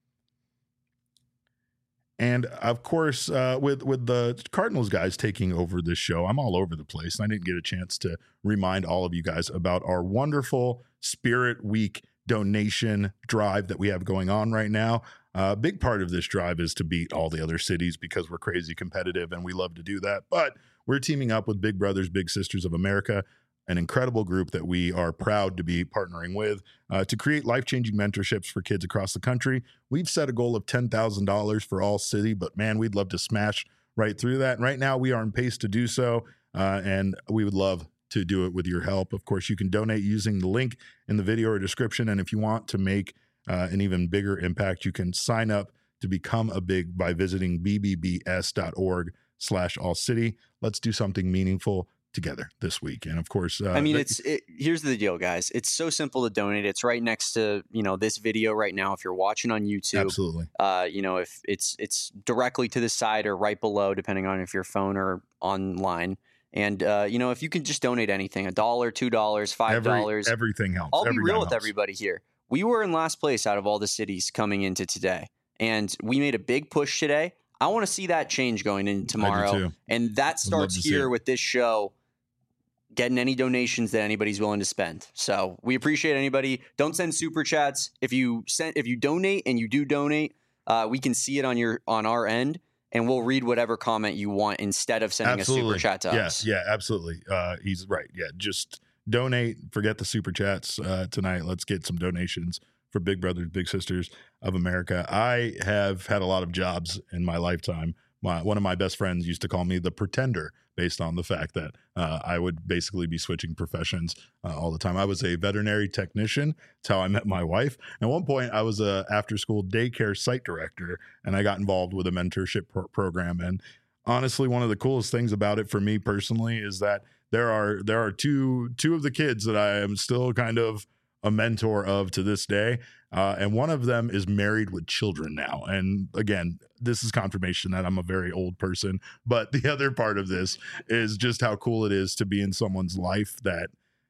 And of course, uh, with with the Cardinals guys taking over this show, I'm all over the place. And I didn't get a chance to remind all of you guys about our wonderful Spirit Week donation drive that we have going on right now. A uh, big part of this drive is to beat all the other cities because we're crazy competitive and we love to do that. But we're teaming up with Big Brothers Big Sisters of America, an incredible group that we are proud to be partnering with uh, to create life-changing mentorships for kids across the country. We've set a goal of ten thousand dollars for all city, but man, we'd love to smash right through that. And right now we are on pace to do so, uh, and we would love to do it with your help. Of course, you can donate using the link in the video or description. And if you want to make uh, an even bigger impact, you can sign up to become a big by visiting b b b s dot org slash all city. Let's do something meaningful together this week. And of course, uh, I mean, the, it's it, here's the deal, guys. It's so simple to donate. It's right next to, you know, this video right now. If you're watching on YouTube, absolutely. Uh, you know, if it's it's directly to the side or right below, depending on if your phone or online. And uh, you know, if you can just donate anything, a dollar, two dollars, five dollars, Every, everything helps. I'll Every be real with helps. everybody here. We were in last place out of all the cities coming into today, and we made a big push today. I want to see that change going in tomorrow, and that starts here with this show. Getting any donations that anybody's willing to spend. So we appreciate anybody. Don't send super chats. If you send, if you donate and you do donate, uh, we can see it on your on our end, and we'll read whatever comment you want instead of sending absolutely. a super chat to yes, us. Yeah, absolutely. Uh, he's right. Yeah, just donate. Forget the super chats uh, tonight. Let's get some donations for Big Brothers Big Sisters of America. I have had a lot of jobs in my lifetime. My, one of my best friends used to call me the pretender, based on the fact that uh, I would basically be switching professions uh, all the time. I was a veterinary technician. That's how I met my wife. At one point, I was a after-school daycare site director, and I got involved with a mentorship pro- program. And honestly, one of the coolest things about it for me personally is that there are there are two two of the kids that I am still kind of a mentor of to this day. Uh, and one of them is married with children now. And again, this is confirmation that I'm a very old person. But the other part of this is just how cool it is to be in someone's life that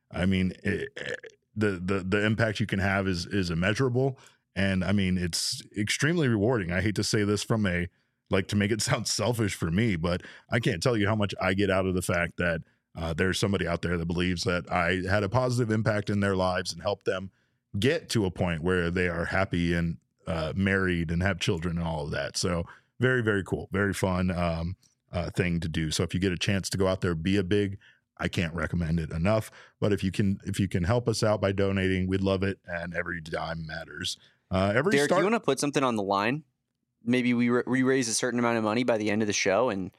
I mean, it, the the the impact you can have is is immeasurable, and I mean, it's extremely rewarding. I hate to say this from a like to make it sound selfish for me, but I can't tell you how much I get out of the fact that uh, there's somebody out there that believes that I had a positive impact in their lives and helped them get to a point where they are happy and uh, married and have children and all of that. So very, very cool, very fun um, uh, thing to do. So if you get a chance to go out there, be a big, I can't recommend it enough. But if you can, if you can help us out by donating, we'd love it. And every dime matters. Uh, every Derek, start- you want to put something on the line? Maybe we re- we raise a certain amount of money by the end of the show, and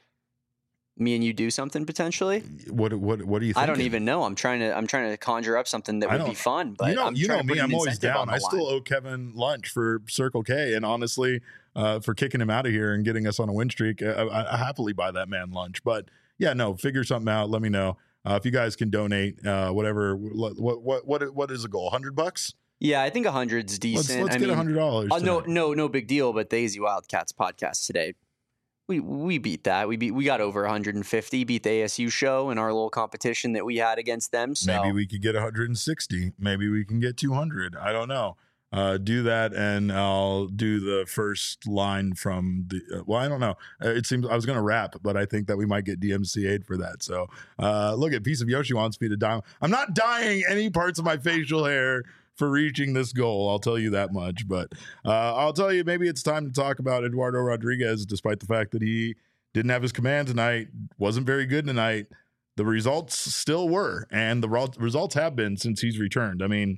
me and you do something potentially. What what what do you think? I don't even know. I'm trying to I'm trying to conjure up something that I would be don't- fun. But you know, I'm you trying know to put me, an I'm always incentive on down. the I still line. owe Kevin lunch for Circle K, and honestly, uh, for kicking him out of here and getting us on a win streak, I, I, I happily buy that man lunch. But yeah, no, figure something out. Let me know uh, if you guys can donate. Uh, whatever. What what what what is the goal? Hundred bucks. Yeah, I think a hundred's Let's decent. let's I get a mean, hundred dollars. uh, no, no, no big deal. But the A Z Wildcats podcast today, we we beat that. We beat we got over one hundred fifty. Beat the A S U show in our little competition that we had against them. So Maybe we could get one hundred sixty. Maybe we can get two hundred. I don't know. Uh, do that, and I'll do the first line from the. Uh, well, I don't know. Uh, It seems I was going to rap, but I think that we might get D M C A'd for that. So, uh, look at Piece of Yoshi wants me to die. I'm not dyeing any parts of my facial hair for reaching this goal. I'll tell you that much. But uh, I'll tell you, maybe it's time to talk about Eduardo Rodriguez, despite the fact that he didn't have his command tonight, wasn't very good tonight. The results still were, and the ro- results have been since he's returned. I mean,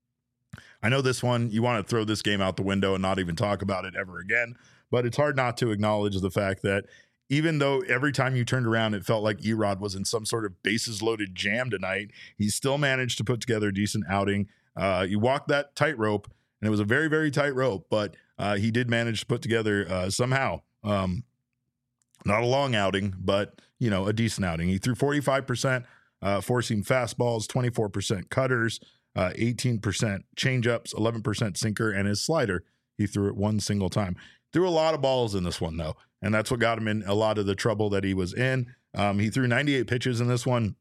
I know this one, you want to throw this game out the window and not even talk about it ever again, but it's hard not to acknowledge the fact that even though every time you turned around, it felt like Erod was in some sort of bases loaded jam tonight, he still managed to put together a decent outing. Uh, you walked that tightrope, and it was a very, very tight rope, but uh, he did manage to put together uh, somehow, um, not a long outing, but, you know, a decent outing. He threw forty-five percent uh, four-seam fastballs, twenty-four percent cutters, uh, eighteen percent changeups, eleven percent sinker, and his slider, he threw it one single time. Threw a lot of balls in this one, though, and that's what got him in a lot of the trouble that he was in. Um, he threw ninety-eight pitches in this one.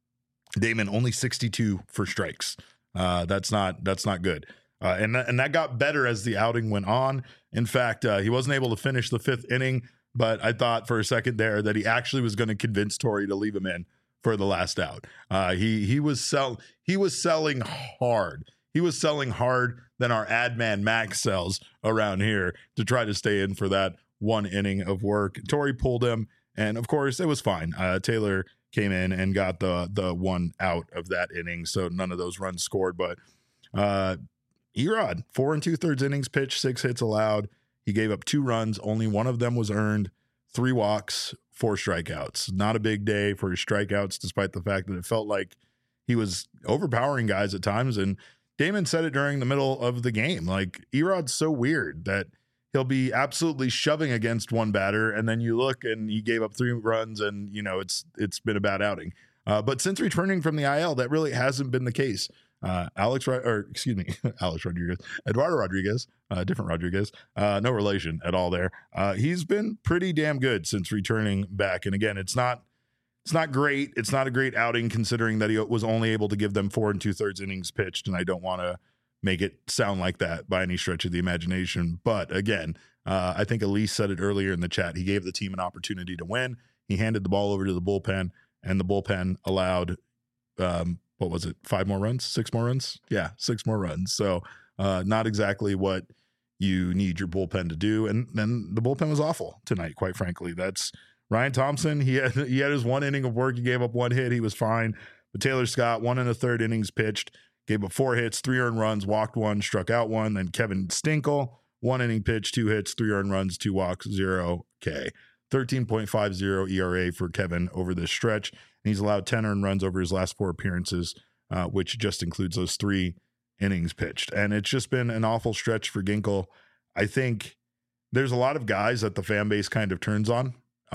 Damon, only sixty-two for strikes. Uh, that's not that's not good. Uh, and, th- and that got better as the outing went on. In fact, uh, he wasn't able to finish the fifth inning, but I thought for a second there that he actually was going to convince Torrey to leave him in for the last out. Uh, he he was sell he was selling hard. He was selling hard than our ad man Max sells around here to try to stay in for that one inning of work. Torrey pulled him, and of course it was fine. Uh, Taylor came in and got the the one out of that inning, so none of those runs scored. But uh, Erod, four and two thirds innings pitched, six hits allowed. He gave up two runs. Only one of them was earned. Three walks, four strikeouts. Not a big day for his strikeouts, despite the fact that it felt like he was overpowering guys at times. And Damon said it during the middle of the game. Like, Erod's so weird that he'll be absolutely shoving against one batter, and then you look and he gave up three runs, and you know it's it's been a bad outing. Uh, but since returning from the I L, that really hasn't been the case. Uh, Alex, or excuse me, Alex Rodriguez, Eduardo Rodriguez, uh, different Rodriguez, uh, no relation at all there. Uh, he's been pretty damn good since returning back. And again, it's not, it's not great. It's not a great outing considering that he was only able to give them four and two thirds innings pitched. And I don't want to make it sound like that by any stretch of the imagination. But again, uh, I think Elise said it earlier in the chat. He gave the team an opportunity to win. He handed the ball over to the bullpen, and the bullpen allowed, um, what was it? Five more runs, six more runs. Yeah. Six more runs. So, uh, not exactly what you need your bullpen to do. And then the bullpen was awful tonight, quite frankly. That's Ryan Thompson. He had, he had his one inning of work. He gave up one hit. He was fine. But Taylor Scott, one and a third innings pitched, gave up four hits, three earned runs, walked one, struck out one. Then Kevin Stinkle, one inning pitch, two hits, three earned runs, two walks, zero K. thirteen point five oh E R A for Kevin over this stretch. And he's allowed ten earned runs over his last four appearances, uh, which just includes those three innings pitched. And it's just been an awful stretch for Ginkel. I think there's a lot of guys that the fan base kind of turns on.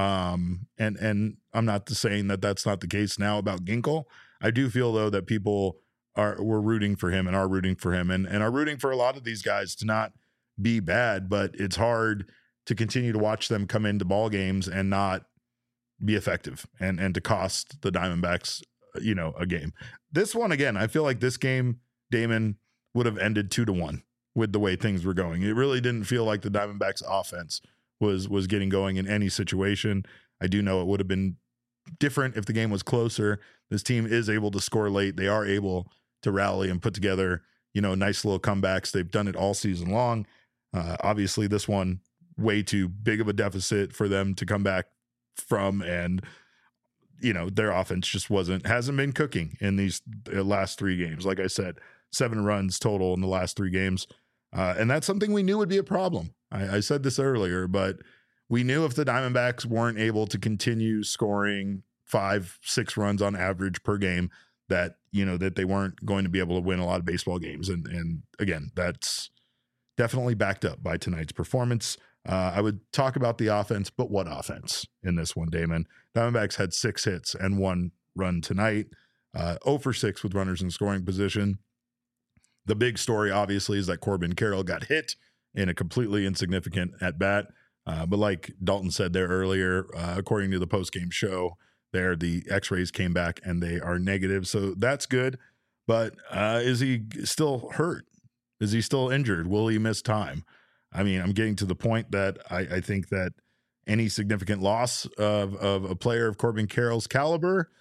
Um, and, and I'm not saying that that's not the case now about Ginkel. I do feel, though, that people are were rooting for him and are rooting for him and, and are rooting for a lot of these guys to not be bad, but it's hard to continue to watch them come into ball games and not be effective and, and to cost the Diamondbacks you know, a game. This one, again, I feel like this game, Damon, would have ended two to one with the way things were going. It really didn't feel like the Diamondbacks offense was, was getting going in any situation. I do know it would have been different if the game was closer. This team is able to score late. They are able to rally and put together, you know, nice little comebacks. They've done it all season long. Uh, obviously, this one, way too big of a deficit for them to come back from. And, you know, their offense just wasn't, hasn't been cooking in these last three games. Like I said, seven runs total in the last three games. Uh, and that's something we knew would be a problem. I, I said this earlier, but we knew if the Diamondbacks weren't able to continue scoring five, six runs on average per game, that, you know, that they weren't going to be able to win a lot of baseball games. And, and again, that's definitely backed up by tonight's performance. Uh, I would talk about the offense, but what offense in this one, Damon? Diamondbacks had six hits and one run tonight, uh, zero for six with runners in scoring position. The big story, obviously, is that Corbin Carroll got hit in a completely insignificant at bat. Uh, but like Dalton said there earlier, uh, according to the post-game show there, the x-rays came back and they are negative. So that's good. But uh, is he still hurt? Is he still injured? Will he miss time? I mean, I'm getting to the point that I, I think that any significant loss of, of a player of Corbin Carroll's caliber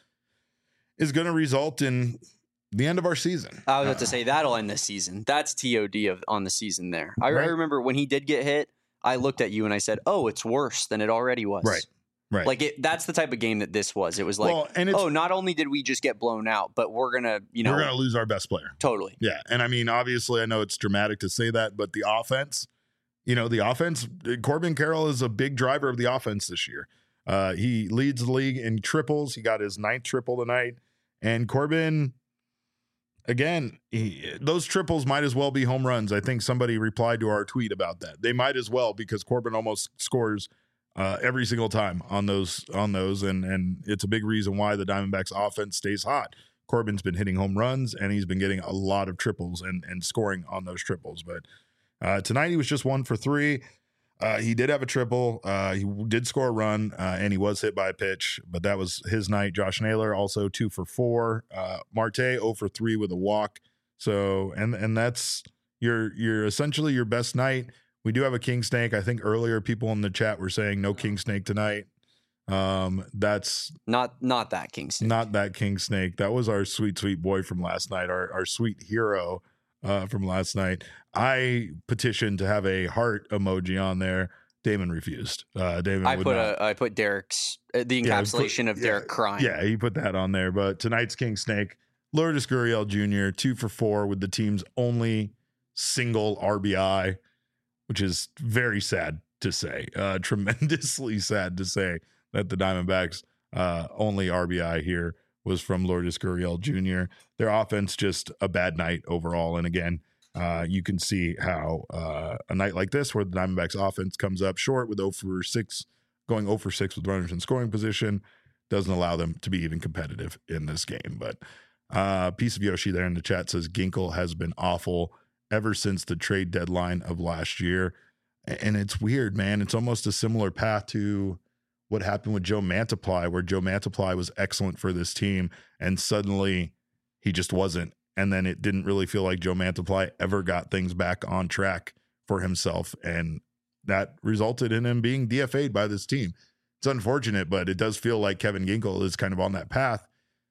is going to result in the end of our season. I was about uh, to say that'll end the season. That's T O D of on the season there. I, Right. I remember when he did get hit, I looked at you and I said, "Oh, it's worse than it already was." Right. Right. Like it, that's the type of game that this was. It was like, well, and it's, oh, not only did we just get blown out, but we're gonna, you know, we're going to lose our best player. totally. Yeah. And I mean, obviously, I know it's dramatic to say that, but the offense, you know, the offense, Corbin Carroll is a big driver of the offense this year. Uh, he leads the league in triples. He got his ninth triple tonight. And Corbin, again, he, those triples might as well be home runs. I think somebody replied to our tweet about that. They might as well, because Corbin almost scores uh, every single time on those, on those. And, and it's a big reason why the Diamondbacks offense stays hot. Corbin's been hitting home runs and he's been getting a lot of triples and, and scoring on those triples. But uh, tonight he was just one for three. Uh, he did have a triple. Uh, he did score a run, uh, and he was hit by a pitch, but that was his night. Josh Naylor also two for four. Uh, Marte zero for three with a walk. So, and and that's your your essentially your best night. We do have a king snake. I think earlier people in the chat were saying no king snake tonight. Um, that's Not not that Kingston. not that king snake. That was our sweet sweet boy from last night. Our our sweet hero uh, from last night. I petitioned to have a heart emoji on there. Damon refused. Uh, Damon I would put not. a I put Derek's uh, the Yeah, encapsulation put- of Derek yeah, crying. Yeah, he put that on there. But tonight's King Snake, Lourdes Gurriel Junior, two for four with the team's only single R B I, which is very sad to say. Uh, tremendously sad to say that the Diamondbacks' uh, only R B I here was from Lourdes Gurriel Junior Their offense just a bad night overall. And again, Uh, you can see how uh, a night like this, where the Diamondbacks offense comes up short with zero for six, going zero for six with runners in scoring position, doesn't allow them to be even competitive in this game. But uh, Piece of Yoshi there in the chat says Ginkel has been awful ever since the trade deadline of last year. And it's weird, man. It's almost a similar path to what happened with Joe Mantiply, where Joe Mantiply was excellent for this team, and suddenly he just wasn't. And then it didn't really feel like Joe Mantiply ever got things back on track for himself. And that resulted in him being D F A'd by this team. It's unfortunate, but it does feel like Kevin Ginkel is kind of on that path.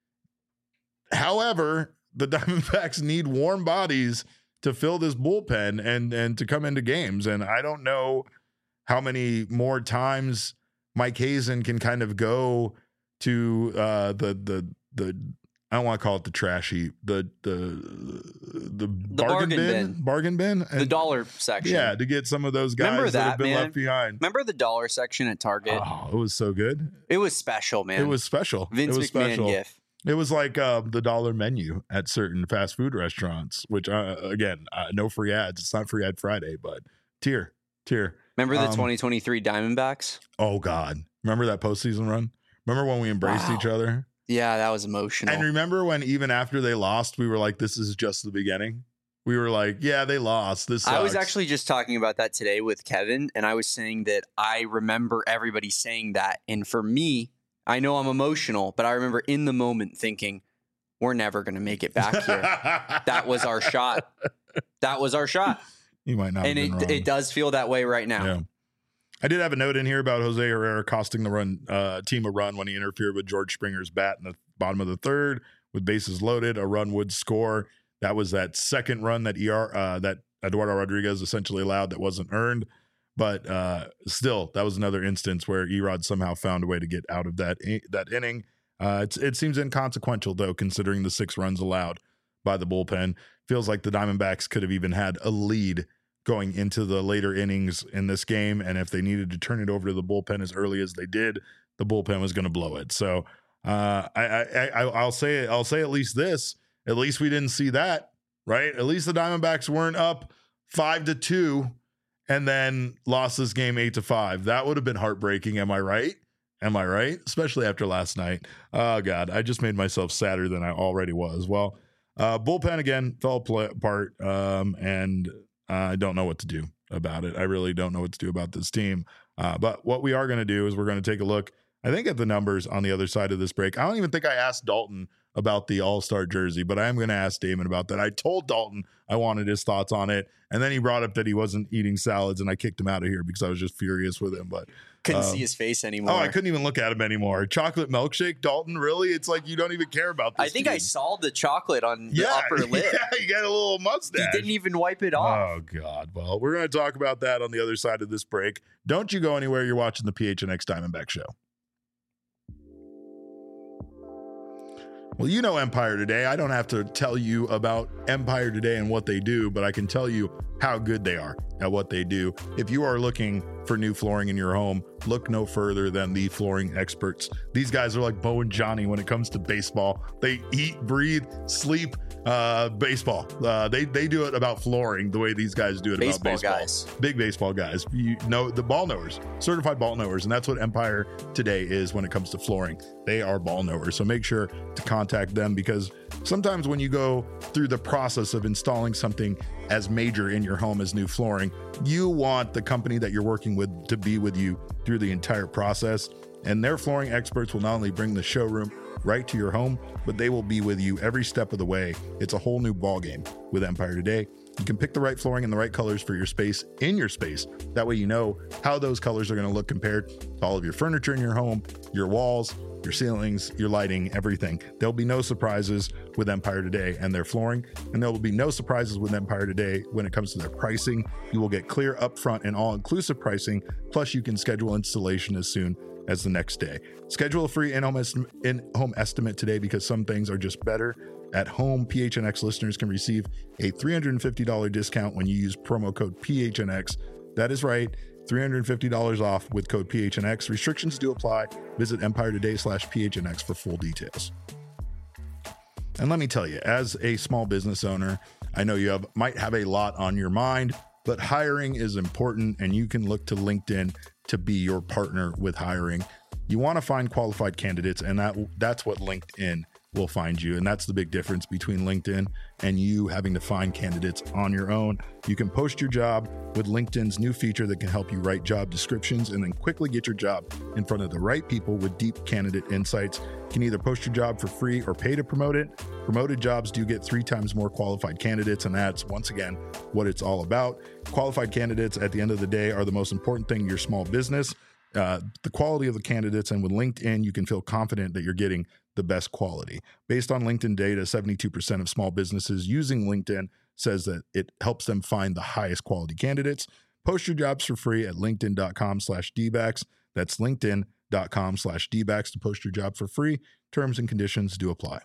However, the Diamondbacks need warm bodies to fill this bullpen and, and to come into games. And I don't know how many more times Mike Hazen can kind of go to uh, the, the, the, I don't want to call it the trash heap, the the the, The bargain, bargain bin, bin. bargain bin, The dollar section. yeah, to get some of those guys Remember that, have that, been man? left behind. Remember the dollar section at Target? Oh, it was so good. It was special, man. It was special. Vince it was McMahon special. gif. It was like uh, the dollar menu at certain fast food restaurants, which uh, again, uh, no free ads. It's not free ad Friday, but tier, tier. Remember the Um, twenty twenty-three Diamondbacks? Oh God, remember that postseason run? Remember when we embraced Wow. each other? Yeah, that was emotional. And remember when even after they lost, we were like, "This is just the beginning." We were like, "Yeah, they lost. This sucks." I was actually just talking about that today with Kevin, and I was saying that I remember everybody saying that. And for me, I know I'm emotional, but I remember in the moment thinking, we're never going to make it back here. That was our shot. That was our shot. You might not. And have it, been wrong. it does feel that way right now. Yeah. I did have a note in here about Jose Herrera costing the run uh, team a run when he interfered with George Springer's bat in the bottom of the third with bases loaded. A run would score. That was that second run that E R uh, that Eduardo Rodriguez essentially allowed that wasn't earned. But uh, still, that was another instance where Erod somehow found a way to get out of that that inning. Uh, it's, it seems inconsequential, though, considering the six runs allowed by the bullpen. Feels like the Diamondbacks could have even had a lead going into the later innings in this game. And if they needed to turn it over to the bullpen as early as they did, the bullpen was going to blow it. So uh, I, I, I, I'll say I'll say at least this. At least we didn't see that, right? At least the Diamondbacks weren't up five to two and then lost this game eight to five. That would have been heartbreaking. Am I right? Am I right? Especially after last night. Oh, God. I just made myself sadder than I already was. Well, uh, bullpen again fell apart, um, and I don't know what to do about it. I really don't know what to do about this team. Uh, but what we are going to do is we're going to take a look, I think, at the numbers on the other side of this break. I don't even think I asked Dalton about the All-Star jersey, but I am going to ask Damon about that. I told Dalton I wanted his thoughts on it, and then he brought up that he wasn't eating salads, and I kicked him out of here because I was just furious with him. But couldn't um, see his face anymore. Oh, I couldn't even look at him anymore. Chocolate milkshake, Dalton, really? It's like you don't even care about this I think dude. I saw the chocolate on yeah, the upper lip. Yeah, you got a little mustache. He didn't even wipe it off. Oh, God. Well, we're going to talk about that on the other side of this break. Don't you go anywhere. You're watching the P H N X Diamondback Show. Well, you know Empire Today. I don't have to tell you about Empire Today and what they do, but I can tell you how good they are at what they do. If you are looking for new flooring in your home, look no further than the flooring experts. These guys are like Bo and Johnny when it comes to baseball. They eat, breathe, sleep uh, baseball. Uh, they they do it about flooring the way these guys do it Baseball about baseball. guys. Big baseball guys. You know, the ball knowers, certified ball knowers. And that's what Empire Today is when it comes to flooring. They are ball knowers. So make sure to contact them, because sometimes when you go through the process of installing something as major in your home as new flooring, you want the company that you're working with to be with you through the entire process. And their flooring experts will not only bring the showroom right to your home, but they will be with you every step of the way. It's a whole new ballgame with Empire Today. You can pick the right flooring and the right colors for your space in your space. That way you know how those colors are going to look compared to all of your furniture in your home, your walls, your ceilings, your lighting, everything. There'll be no surprises with Empire Today and their flooring, and there will be no surprises with Empire Today when it comes to their pricing. You will get clear upfront and all-inclusive pricing, plus you can schedule installation as soon as the next day. Schedule a free in-home, est- in-home estimate today, because some things are just better at home. P H N X listeners can receive a three hundred fifty dollars discount when you use promo code P H N X. That is right, three hundred fifty dollars off with code P H N X. Restrictions do apply. Visit Empire Today slash P H N X for full details. And let me tell you, as a small business owner, I know you have might have a lot on your mind, but hiring is important, and you can look to LinkedIn to be your partner with hiring. You want to find qualified candidates, and that that's what LinkedIn will find you. And that's the big difference between LinkedIn and you having to find candidates on your own. You can post your job with LinkedIn's new feature that can help you write job descriptions and then quickly get your job in front of the right people with deep candidate insights. You can either post your job for free or pay to promote it. Promoted jobs do get three times more qualified candidates, and that's, once again, what it's all about. Qualified candidates, at the end of the day, are the most important thing in your small business. Uh, the quality of the candidates, and with LinkedIn, you can feel confident that you're getting the best quality. Based on LinkedIn data, seventy-two percent of small businesses using LinkedIn says that it helps them find the highest quality candidates. Post your jobs for free at linkedin.com slash dbacks. That's linkedin.com slash dbacks to post your job for free. Terms and conditions do apply.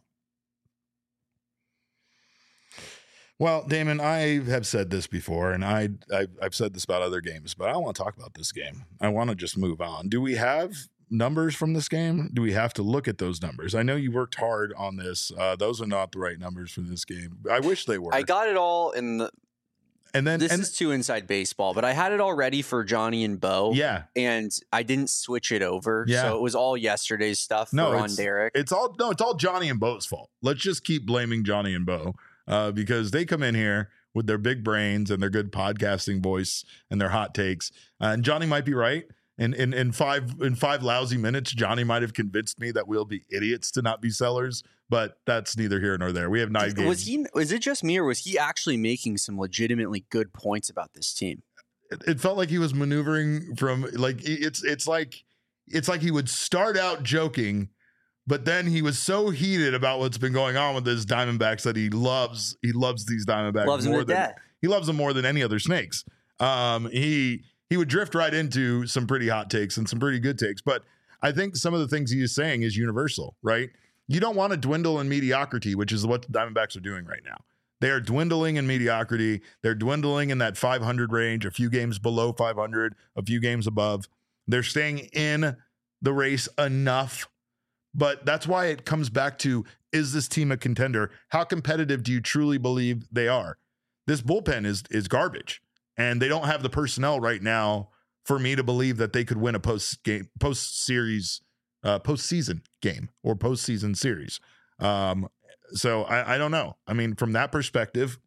Well, Damon, I have said this before, and I, I, I've said this about other games, but I don't want to talk about this game. I want to just move on. Do we have numbers from this game? Do we have to look at those numbers? I know you worked hard on this. Uh, those are not the right numbers for this game. I wish they were. I got it all in the. And then this and, is too inside baseball, but I had it all ready for Johnny and Bo. Yeah. And I didn't switch it over. Yeah. So it was all yesterday's stuff no, for it's, on Derek. It's all no, it's all Johnny and Bo's fault. Let's just keep blaming Johnny and Bo. Uh, because they come in here with their big brains and their good podcasting voice and their hot takes. Uh, and Johnny might be right. in, in, in five in five lousy minutes, Johnny might have convinced me that we'll be idiots to not be sellers, but that's neither here nor there. We have nine games. Was he? Was it just me, or was he actually making some legitimately good points about this team? It, it felt like he was maneuvering from like it's it's like it's like he would start out joking, but then he was so heated about what's been going on with his Diamondbacks that he loves he loves these Diamondbacks Loves more them to than death. he loves them more than any other Snakes. Um, he he would drift right into some pretty hot takes and some pretty good takes, but I think some of the things he is saying is universal, right? You don't want to dwindle in mediocrity, which is what the Diamondbacks are doing right now. They are dwindling in mediocrity. They're dwindling in that five hundred range, a few games below five hundred, a few games above. They're staying in the race enough, but that's why it comes back to, is this team a contender? How competitive do you truly believe they are? This bullpen is is garbage, and they don't have the personnel right now for me to believe that they could win a post game, post series, uh, postseason game or postseason series. Um, so I, I don't know. I mean, from that perspective,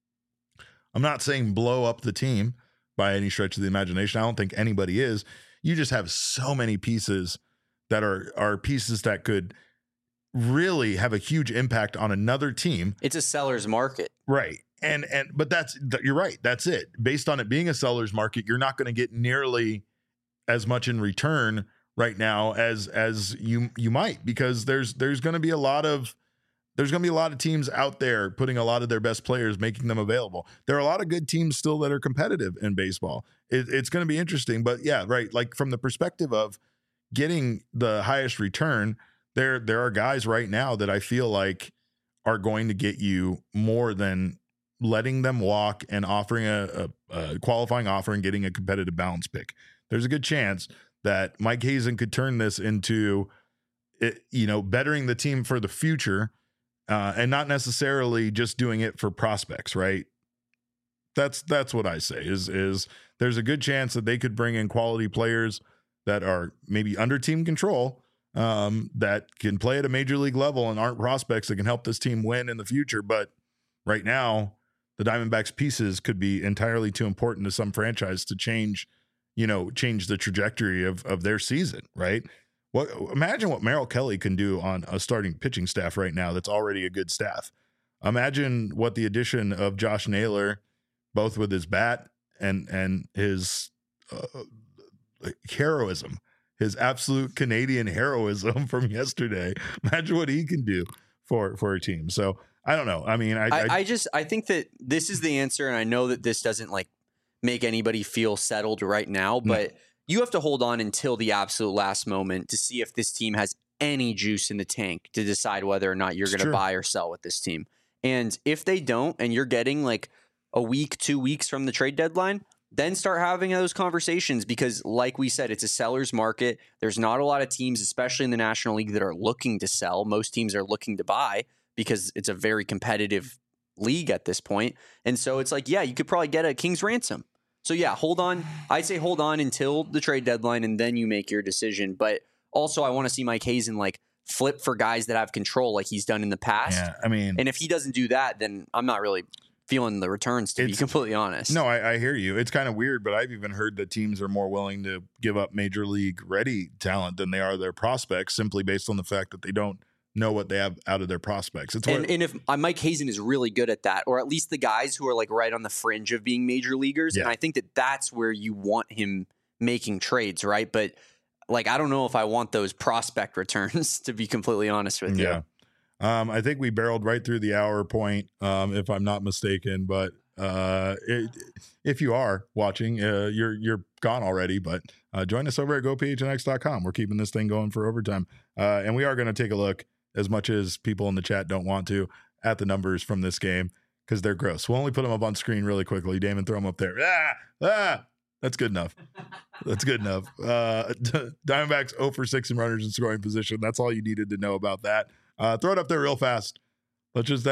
I'm not saying blow up the team by any stretch of the imagination. I don't think anybody is. You just have so many pieces that are are pieces that could really have a huge impact on another team. It's a seller's market. Right. And and but that's you're right. That's it. Based on it being a seller's market, you're not going to get nearly as much in return right now as as you you might, because there's there's going to be a lot of there's going to be a lot of teams out there putting a lot of their best players, making them available. There are a lot of good teams still that are competitive in baseball. It, it's going to be interesting, but yeah, right. Like from the perspective of getting the highest return, there there are guys right now that I feel like are going to get you more than letting them walk and offering a, a, a qualifying offer and getting a competitive balance pick. There's a good chance that Mike Hazen could turn this into, it, you know, bettering the team for the future, uh, and not necessarily just doing it for prospects, right? That's that's what I say is is there's a good chance that they could bring in quality players that are maybe under team control, um, that can play at a major league level and aren't prospects that can help this team win in the future. But right now, the Diamondbacks pieces could be entirely too important to some franchise to change, you know, change the trajectory of, of their season, right? What imagine what Merrill Kelly can do on a starting pitching staff right now that's already a good staff. Imagine what the addition of Josh Naylor, both with his bat and and his uh, heroism, his absolute Canadian heroism from yesterday. Imagine what he can do for for a team. So I don't know. I mean, I, I, I, I just I think that this is the answer, and I know that this doesn't like make anybody feel settled right now, but no. You have to hold on until the absolute last moment to see if this team has any juice in the tank to decide whether or not you're going to buy or sell with this team. And if they don't, and you're getting like a week, two weeks from the trade deadline, then start having those conversations, because like we said, it's a seller's market. There's not a lot of teams, especially in the National League, that are looking to sell. Most teams are looking to buy because it's a very competitive league at this point. And so it's like, yeah, you could probably get a king's ransom. So yeah, hold on. I'd say hold on until the trade deadline and then you make your decision. But also I want to see Mike Hazen like flip for guys that have control like he's done in the past. Yeah, I mean, and if he doesn't do that, then I'm not really feeling the returns, to be completely honest. No, I, I hear you. It's kind of weird, but I've even heard that teams are more willing to give up major league ready talent than they are their prospects, simply based on the fact that they don't know what they have out of their prospects. It's and, what, and if uh, Mike Hazen is really good at that, or at least the guys who are like right on the fringe of being major leaguers. Yeah. And I think that that's where you want him making trades, right? But like, I don't know if I want those prospect returns, to be completely honest with you. Yeah. Um, I think we barreled right through the hour point, um, if I'm not mistaken, but uh, it, if you are watching, uh, you're, you're gone already, but uh, join us over at go p h n x dot com. We're keeping this thing going for overtime. Uh, and we are going to take a look, as much as people in the chat don't want to, at the numbers from this game, because they're gross. We'll only put them up on screen really quickly. Damon, throw them up there. Ah, ah, that's good enough. That's good enough. Uh, Diamondbacks zero for six in runners in scoring position. That's all you needed to know about that. Uh, throw it up there real fast. Let's just, uh,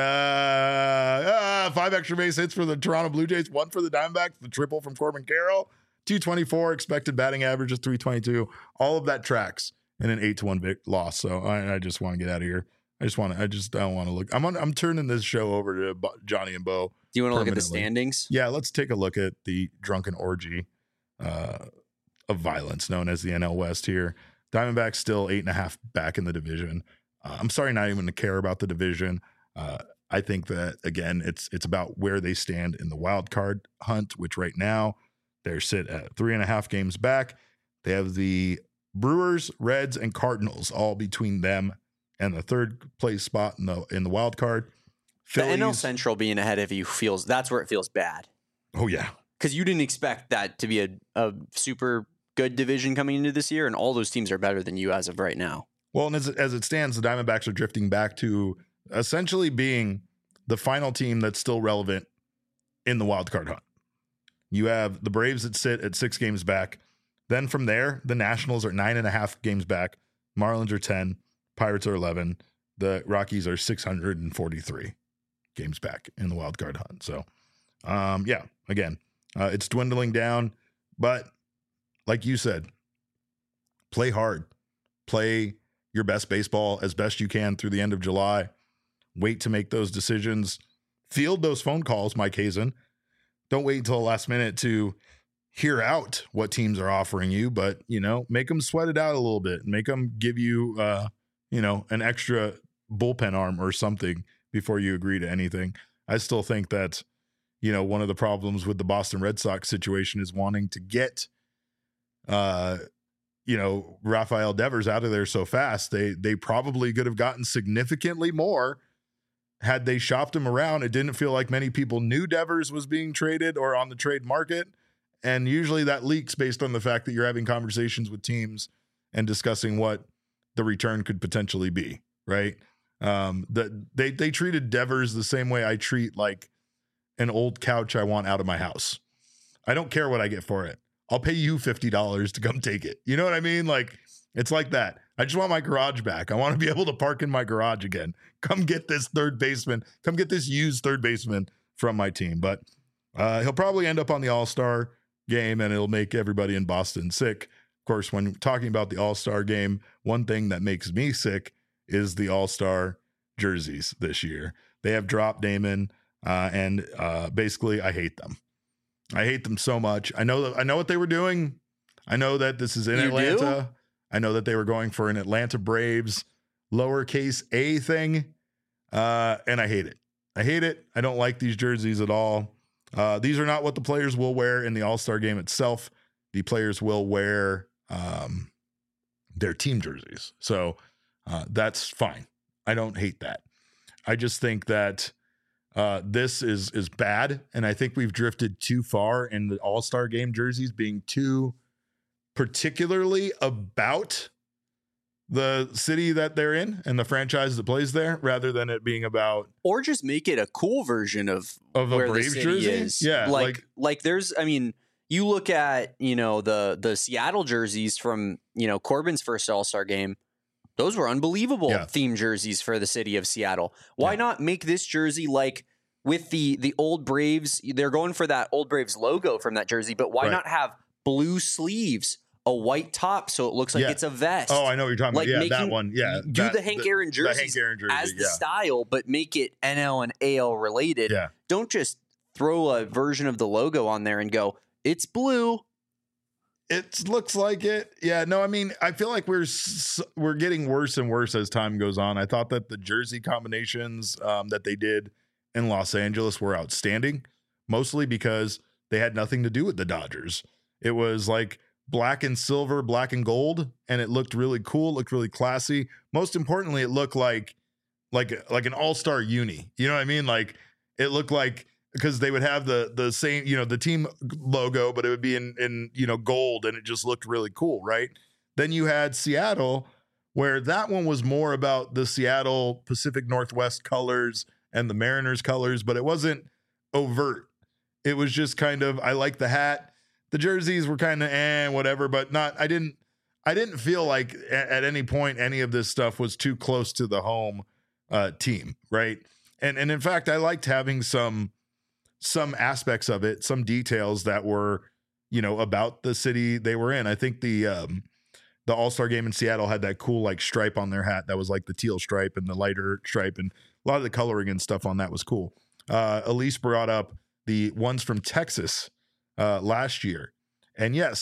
uh, five extra base hits for the Toronto Blue Jays, one for the Diamondbacks, the triple from Corbin Carroll, two twenty-four, expected batting average is three twenty-two. All of that tracks in an eight to one vic loss. So I, I just want to get out of here. I just want to, I just don't want to look. I'm on, I'm turning this show over to Bo, Johnny and Bo. Do you want to look at the standings? Yeah, let's take a look at the drunken orgy uh, of violence known as the N L West here. Diamondbacks still eight and a half back in the division. Uh, I'm sorry, not even to care about the division. Uh, I think that, again, it's it's about where they stand in the wild card hunt, which right now they're sit at three and a half games back. They have the Brewers, Reds, and Cardinals all between them and the third place spot in the in the wild card. Phillies, the N L Central being ahead of you feels that's where it feels bad. Oh yeah, because you didn't expect that to be a, a super good division coming into this year, and all those teams are better than you as of right now. Well, and as as it stands, the Diamondbacks are drifting back to essentially being the final team that's still relevant in the wild card hunt. You have the Braves that sit at six games back. Then from there, the Nationals are nine and a half games back. Marlins are ten. Pirates are eleven. The Rockies are six hundred forty-three games back in the wild card hunt. So, um, yeah, again, uh, it's dwindling down. But like you said, play hard. Play your best baseball as best you can through the end of July. Wait to make those decisions. Field those phone calls, Mike Hazen. Don't wait until the last minute to hear out what teams are offering you, but, you know, make them sweat it out a little bit. Make them give you, uh, you know, an extra bullpen arm or something before you agree to anything. I still think that, you know, one of the problems with the Boston Red Sox situation is wanting to get, uh, you know, Rafael Devers out of there so fast. They they probably could have gotten significantly more had they shopped him around. It didn't feel like many people knew Devers was being traded or on the trade market. And usually that leaks based on the fact that you're having conversations with teams and discussing what the return could potentially be, right? Um, the, they they treated Devers the same way I treat like an old couch I want out of my house. I don't care what I get for it. I'll pay you fifty dollars to come take it. You know what I mean? Like, it's like that. I just want my garage back. I want to be able to park in my garage again. Come get this third baseman. Come get this used third baseman from my team. But uh, he'll probably end up on the All-Star game, and it'll make everybody in Boston sick. Of course, when talking about the All-Star game, one thing that makes me sick is the All-Star jerseys this year. They have dropped Damon, uh, and uh, basically I hate them. I hate them so much. I know that I know what they were doing. I know that this is in You Atlanta. do? I know that they were going for an Atlanta Braves lowercase a thing, uh, and I hate it. I hate it. I don't like these jerseys at all. Uh, these are not what the players will wear in the All-Star game itself. The players will wear um, their team jerseys. So uh, that's fine. I don't hate that. I just think that uh, this is is bad, and I think we've drifted too far in the All-Star game jerseys being too particularly about the city that they're in and the franchise that plays there, rather than it being about, or just make it a cool version of, of a where Braves the city jersey. is. Yeah, like, like like there's, I mean, you look at, you know, the the Seattle jerseys from, you know, Corbin's first All-Star game. Those were unbelievable Yeah. theme jerseys for the city of Seattle. Why Yeah. not make this jersey like with the the old Braves? They're going for that old Braves logo from that jersey, but why Right. not have blue sleeves, a white top, so it looks like Yeah. it's a vest? oh, I know what you're talking Like about. Yeah, that making- one. Yeah, do that- the Hank Aaron the jerseys Hank Aaron jersey, as the yeah. style, but make it N L and A L related. Yeah. Don't just throw a version of the logo on there and go, it's blue. It looks like it. Yeah, no, I mean, I feel like we're s- we're getting worse and worse as time goes on. I thought that the jersey combinations um, that they did in Los Angeles were outstanding, mostly because they had nothing to do with the Dodgers. It was like black and silver, black and gold, and it looked really cool. It looked really classy. Most importantly, it looked like like like an all-star uni. You know what I mean? Like it looked like, because they would have the the same, you know, the team logo, but it would be in in you know gold, and it just looked really cool, right? Then you had Seattle, where that one was more about the Seattle Pacific Northwest colors and the Mariners colors, but it wasn't overt. It was just kind of, I like the hat. The jerseys were kind of eh, whatever, but not. I didn't. I didn't feel like at, at any point any of this stuff was too close to the home uh, team, right? And and in fact, I liked having some. some aspects of it, some details that were, you know, about the city they were in. I think the um, the All-Star game in Seattle had that cool like stripe on their hat that was like the teal stripe and the lighter stripe, and a lot of the coloring and stuff on that was cool. Uh, Elise brought up the ones from Texas uh, last year, and yes,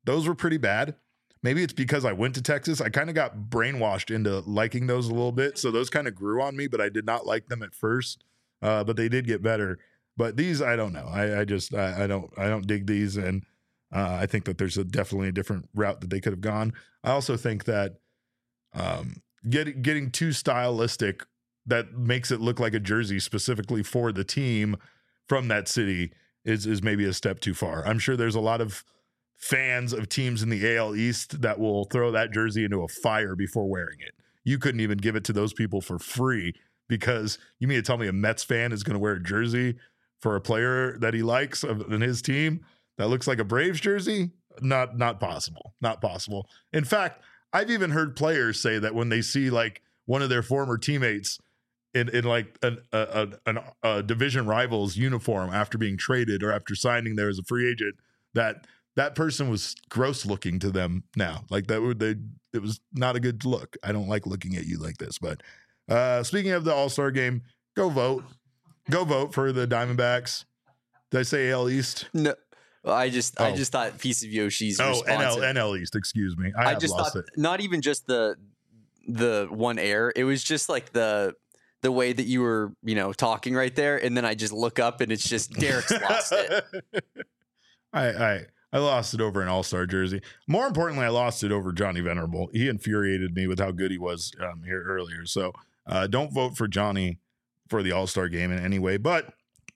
those were pretty bad. Maybe it's because I went to Texas. I kind of got brainwashed into liking those a little bit. So those kind of grew on me, but I did not like them at first. Uh, but they did get better. But these, I don't know. I, I just, I, I don't, I don't dig these. And uh, I think that there's a definitely a different route that they could have gone. I also think that um, getting, getting too stylistic that makes it look like a jersey specifically for the team from that city is, is maybe a step too far. I'm sure there's a lot of fans of teams in the A L East that will throw that jersey into a fire before wearing it. You couldn't even give it to those people for free, because you mean to tell me a Mets fan is going to wear a jersey for a player that he likes of, in his team that looks like a Braves jersey? Not, not possible. Not possible. In fact, I've even heard players say that when they see like one of their former teammates in, in like an, a, a, a division rival's uniform after being traded or after signing there as a free agent, that that person was gross looking to them now. Like that would, they, it was not a good look. I don't like looking at you like this, but uh, speaking of the All-Star game, go vote, go vote for the Diamondbacks. Did I say A L East? No, I just, Oh. I just thought Piece of Yoshi's Oh, response. N L, N L East. Excuse me. I, I have just lost thought it. not even just the, the one air. It was just like the, the way that you were, you know, talking right there. And then I just look up and it's just Derek's lost it. I, I, I lost it over an All-Star jersey. More importantly, I lost it over Johnny Venerable. He infuriated me with how good he was um, here earlier. So uh, don't vote for Johnny for the All-Star game in any way, but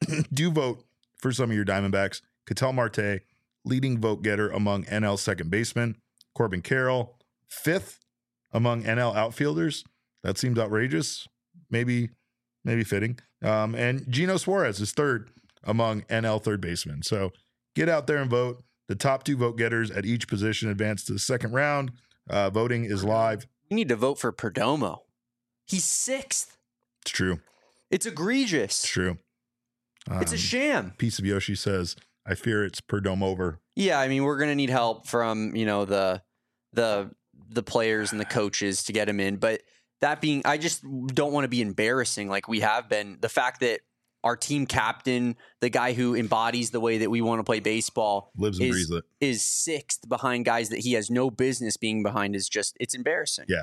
do vote for some of your Diamondbacks. Ketel Marte, leading vote getter among N L second basemen. Corbin Carroll, fifth among N L outfielders. That seems outrageous. Maybe, maybe fitting. Um, and Gino Suarez is third among N L third basemen. So get out there and vote. The top two vote getters at each position advance to the second round. Uh, voting is live. You need to vote for Perdomo. He's sixth. It's true. It's egregious. It's true. Um, It's a sham. Piece of Yoshi says, I fear it's Perdomo over. Yeah, I mean, we're gonna need help from, you know, the the the players and the coaches to get him in. But that being, I just don't want to be embarrassing like we have been. The fact that our team captain, the guy who embodies the way that we want to play baseball, Lives and is, breathes it. is sixth behind guys that he has no business being behind is just, it's embarrassing. Yeah.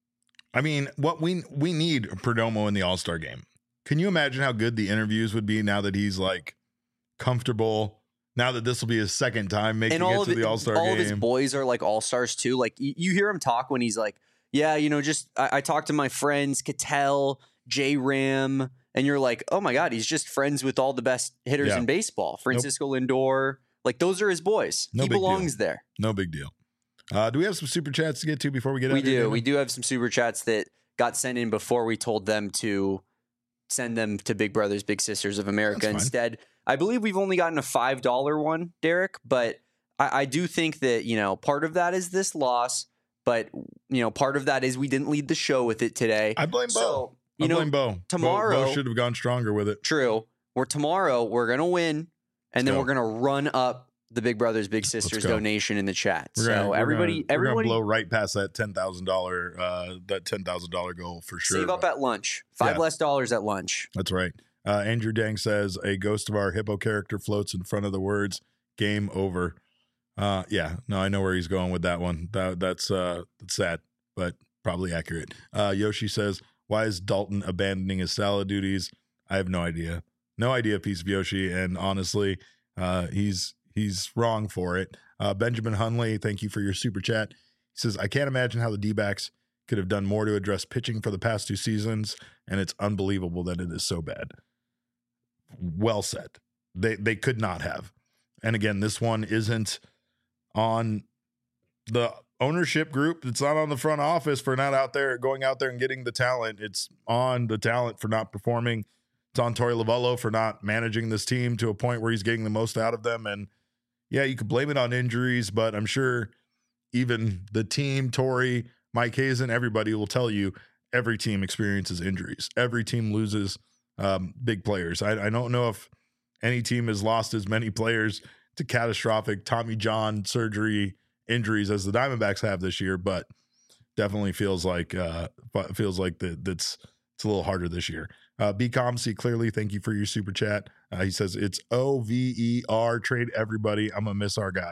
I mean, what we we need Perdomo in the All-Star game. Can you imagine how good the interviews would be now that he's like comfortable? Now that this will be his second time making And all it of to it, the All-Star all game. of his boys are like all-stars too. Like you, you hear him talk when he's like, yeah, you know, just I, I talked to my friends, Ketel, J Ram, and you're like, oh my God, he's just friends with all the best hitters Yeah. in baseball. Francisco Lindor, like those are his boys. No he big belongs there. No big deal. Uh, do we have some super chats to get to before we get out We of here, do. Damon? We do have some super chats that got sent in before we told them to send them to Big Brothers Big Sisters of America That's fine. instead. I believe we've only gotten a five dollar one, Derek, but I, I do think that, you know, part of that is this loss, but, you know, part of that is we didn't lead the show with it today. I blame Bo. So, you I know, blame Bo. Bo- tomorrow- Bo should have gone stronger with it. true. Where tomorrow we're going to win, and then go. we're going to run up the Big Brothers Big Sisters go. donation in the chat. We're so gonna, we're everybody, gonna, we're everybody gonna blow right past that ten thousand dollar uh, that ten thousand dollar goal for sure. save up at lunch. Five Yeah. less dollars at lunch. That's right. Uh, Andrew Dang says a ghost of our hippo character floats in front of the words "game over." Uh, yeah, no, I know where he's going with that one. That that's uh, that's sad, but probably accurate. Uh, Yoshi says, "Why is Dalton abandoning his salad duties?" I have no idea. No idea, piece of Yoshi. And honestly, uh, he's he's wrong for it. Uh, Benjamin Hunley, thank you for your super chat. He says, "I can't imagine how the D-backs could have done more to address pitching for the past two seasons, and it's unbelievable that it is so bad." Well said. They they could not have. And again, this one isn't on the ownership group. It's not on the front office for not out there going out there and getting the talent. It's on the talent for not performing. It's on Torey Lovello for not managing this team to a point where he's getting the most out of them. And yeah, you could blame it on injuries, but I'm sure even the team, Torey, Mike Hazen, everybody will tell you every team experiences injuries. Every team loses um, big players. I, I don't know if any team has lost as many players to catastrophic Tommy John surgery injuries as the Diamondbacks have this year, but definitely feels like uh, feels like that that's it's a little harder this year. Uh, B Comc, clearly, thank you for your super chat. Uh, he says it's O V E R, trade everybody. I'm gonna miss our guys.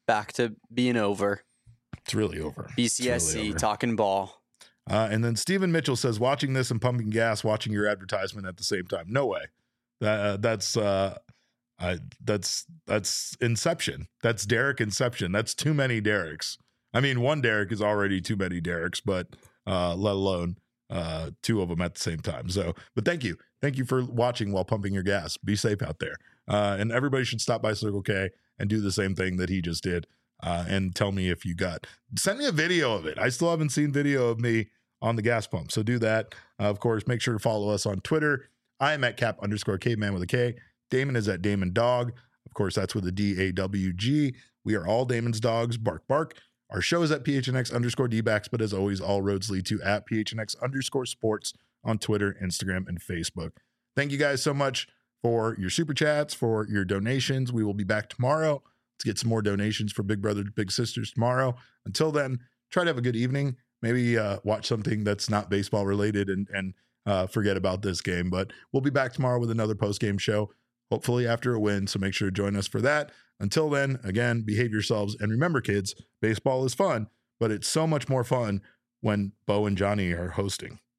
back to being over. It's really over. B C S C really over. talking ball. Uh, and then Stephen Mitchell says, watching this and pumping gas, watching your advertisement at the same time. No way. That uh, that's uh, I, that's that's Inception. That's Derek Inception. That's too many Dereks. I mean, one Derek is already too many Dereks, but uh, let alone uh, two of them at the same time. So, but thank you. Thank you for watching while pumping your gas. Be safe out there. Uh, and everybody should stop by Circle K and do the same thing that he just did. Uh, and tell me if you got, send me a video of it. I still haven't seen video of me on the gas pump. So do that. Uh, of course, make sure to follow us on Twitter. I am at cap underscore caveman with a K. Damon is at Damon Dog. Of course, that's with a D A W G. We are all Damon's dogs. Bark, bark. Our show is at P H N X underscore D-backs, but as always, all roads lead to at P H N X underscore sports on Twitter, Instagram, and Facebook. Thank you guys so much for your super chats, for your donations. We will be back tomorrow to get some more donations for Big Brother, Big Sisters tomorrow. Until then, try to have a good evening. Maybe uh, watch something that's not baseball related and, and uh, forget about this game. But we'll be back tomorrow with another post-game show, hopefully after a win. So make sure to join us for that. Until then, again, behave yourselves. And remember, kids, baseball is fun, but it's so much more fun when Bo and Johnny are hosting.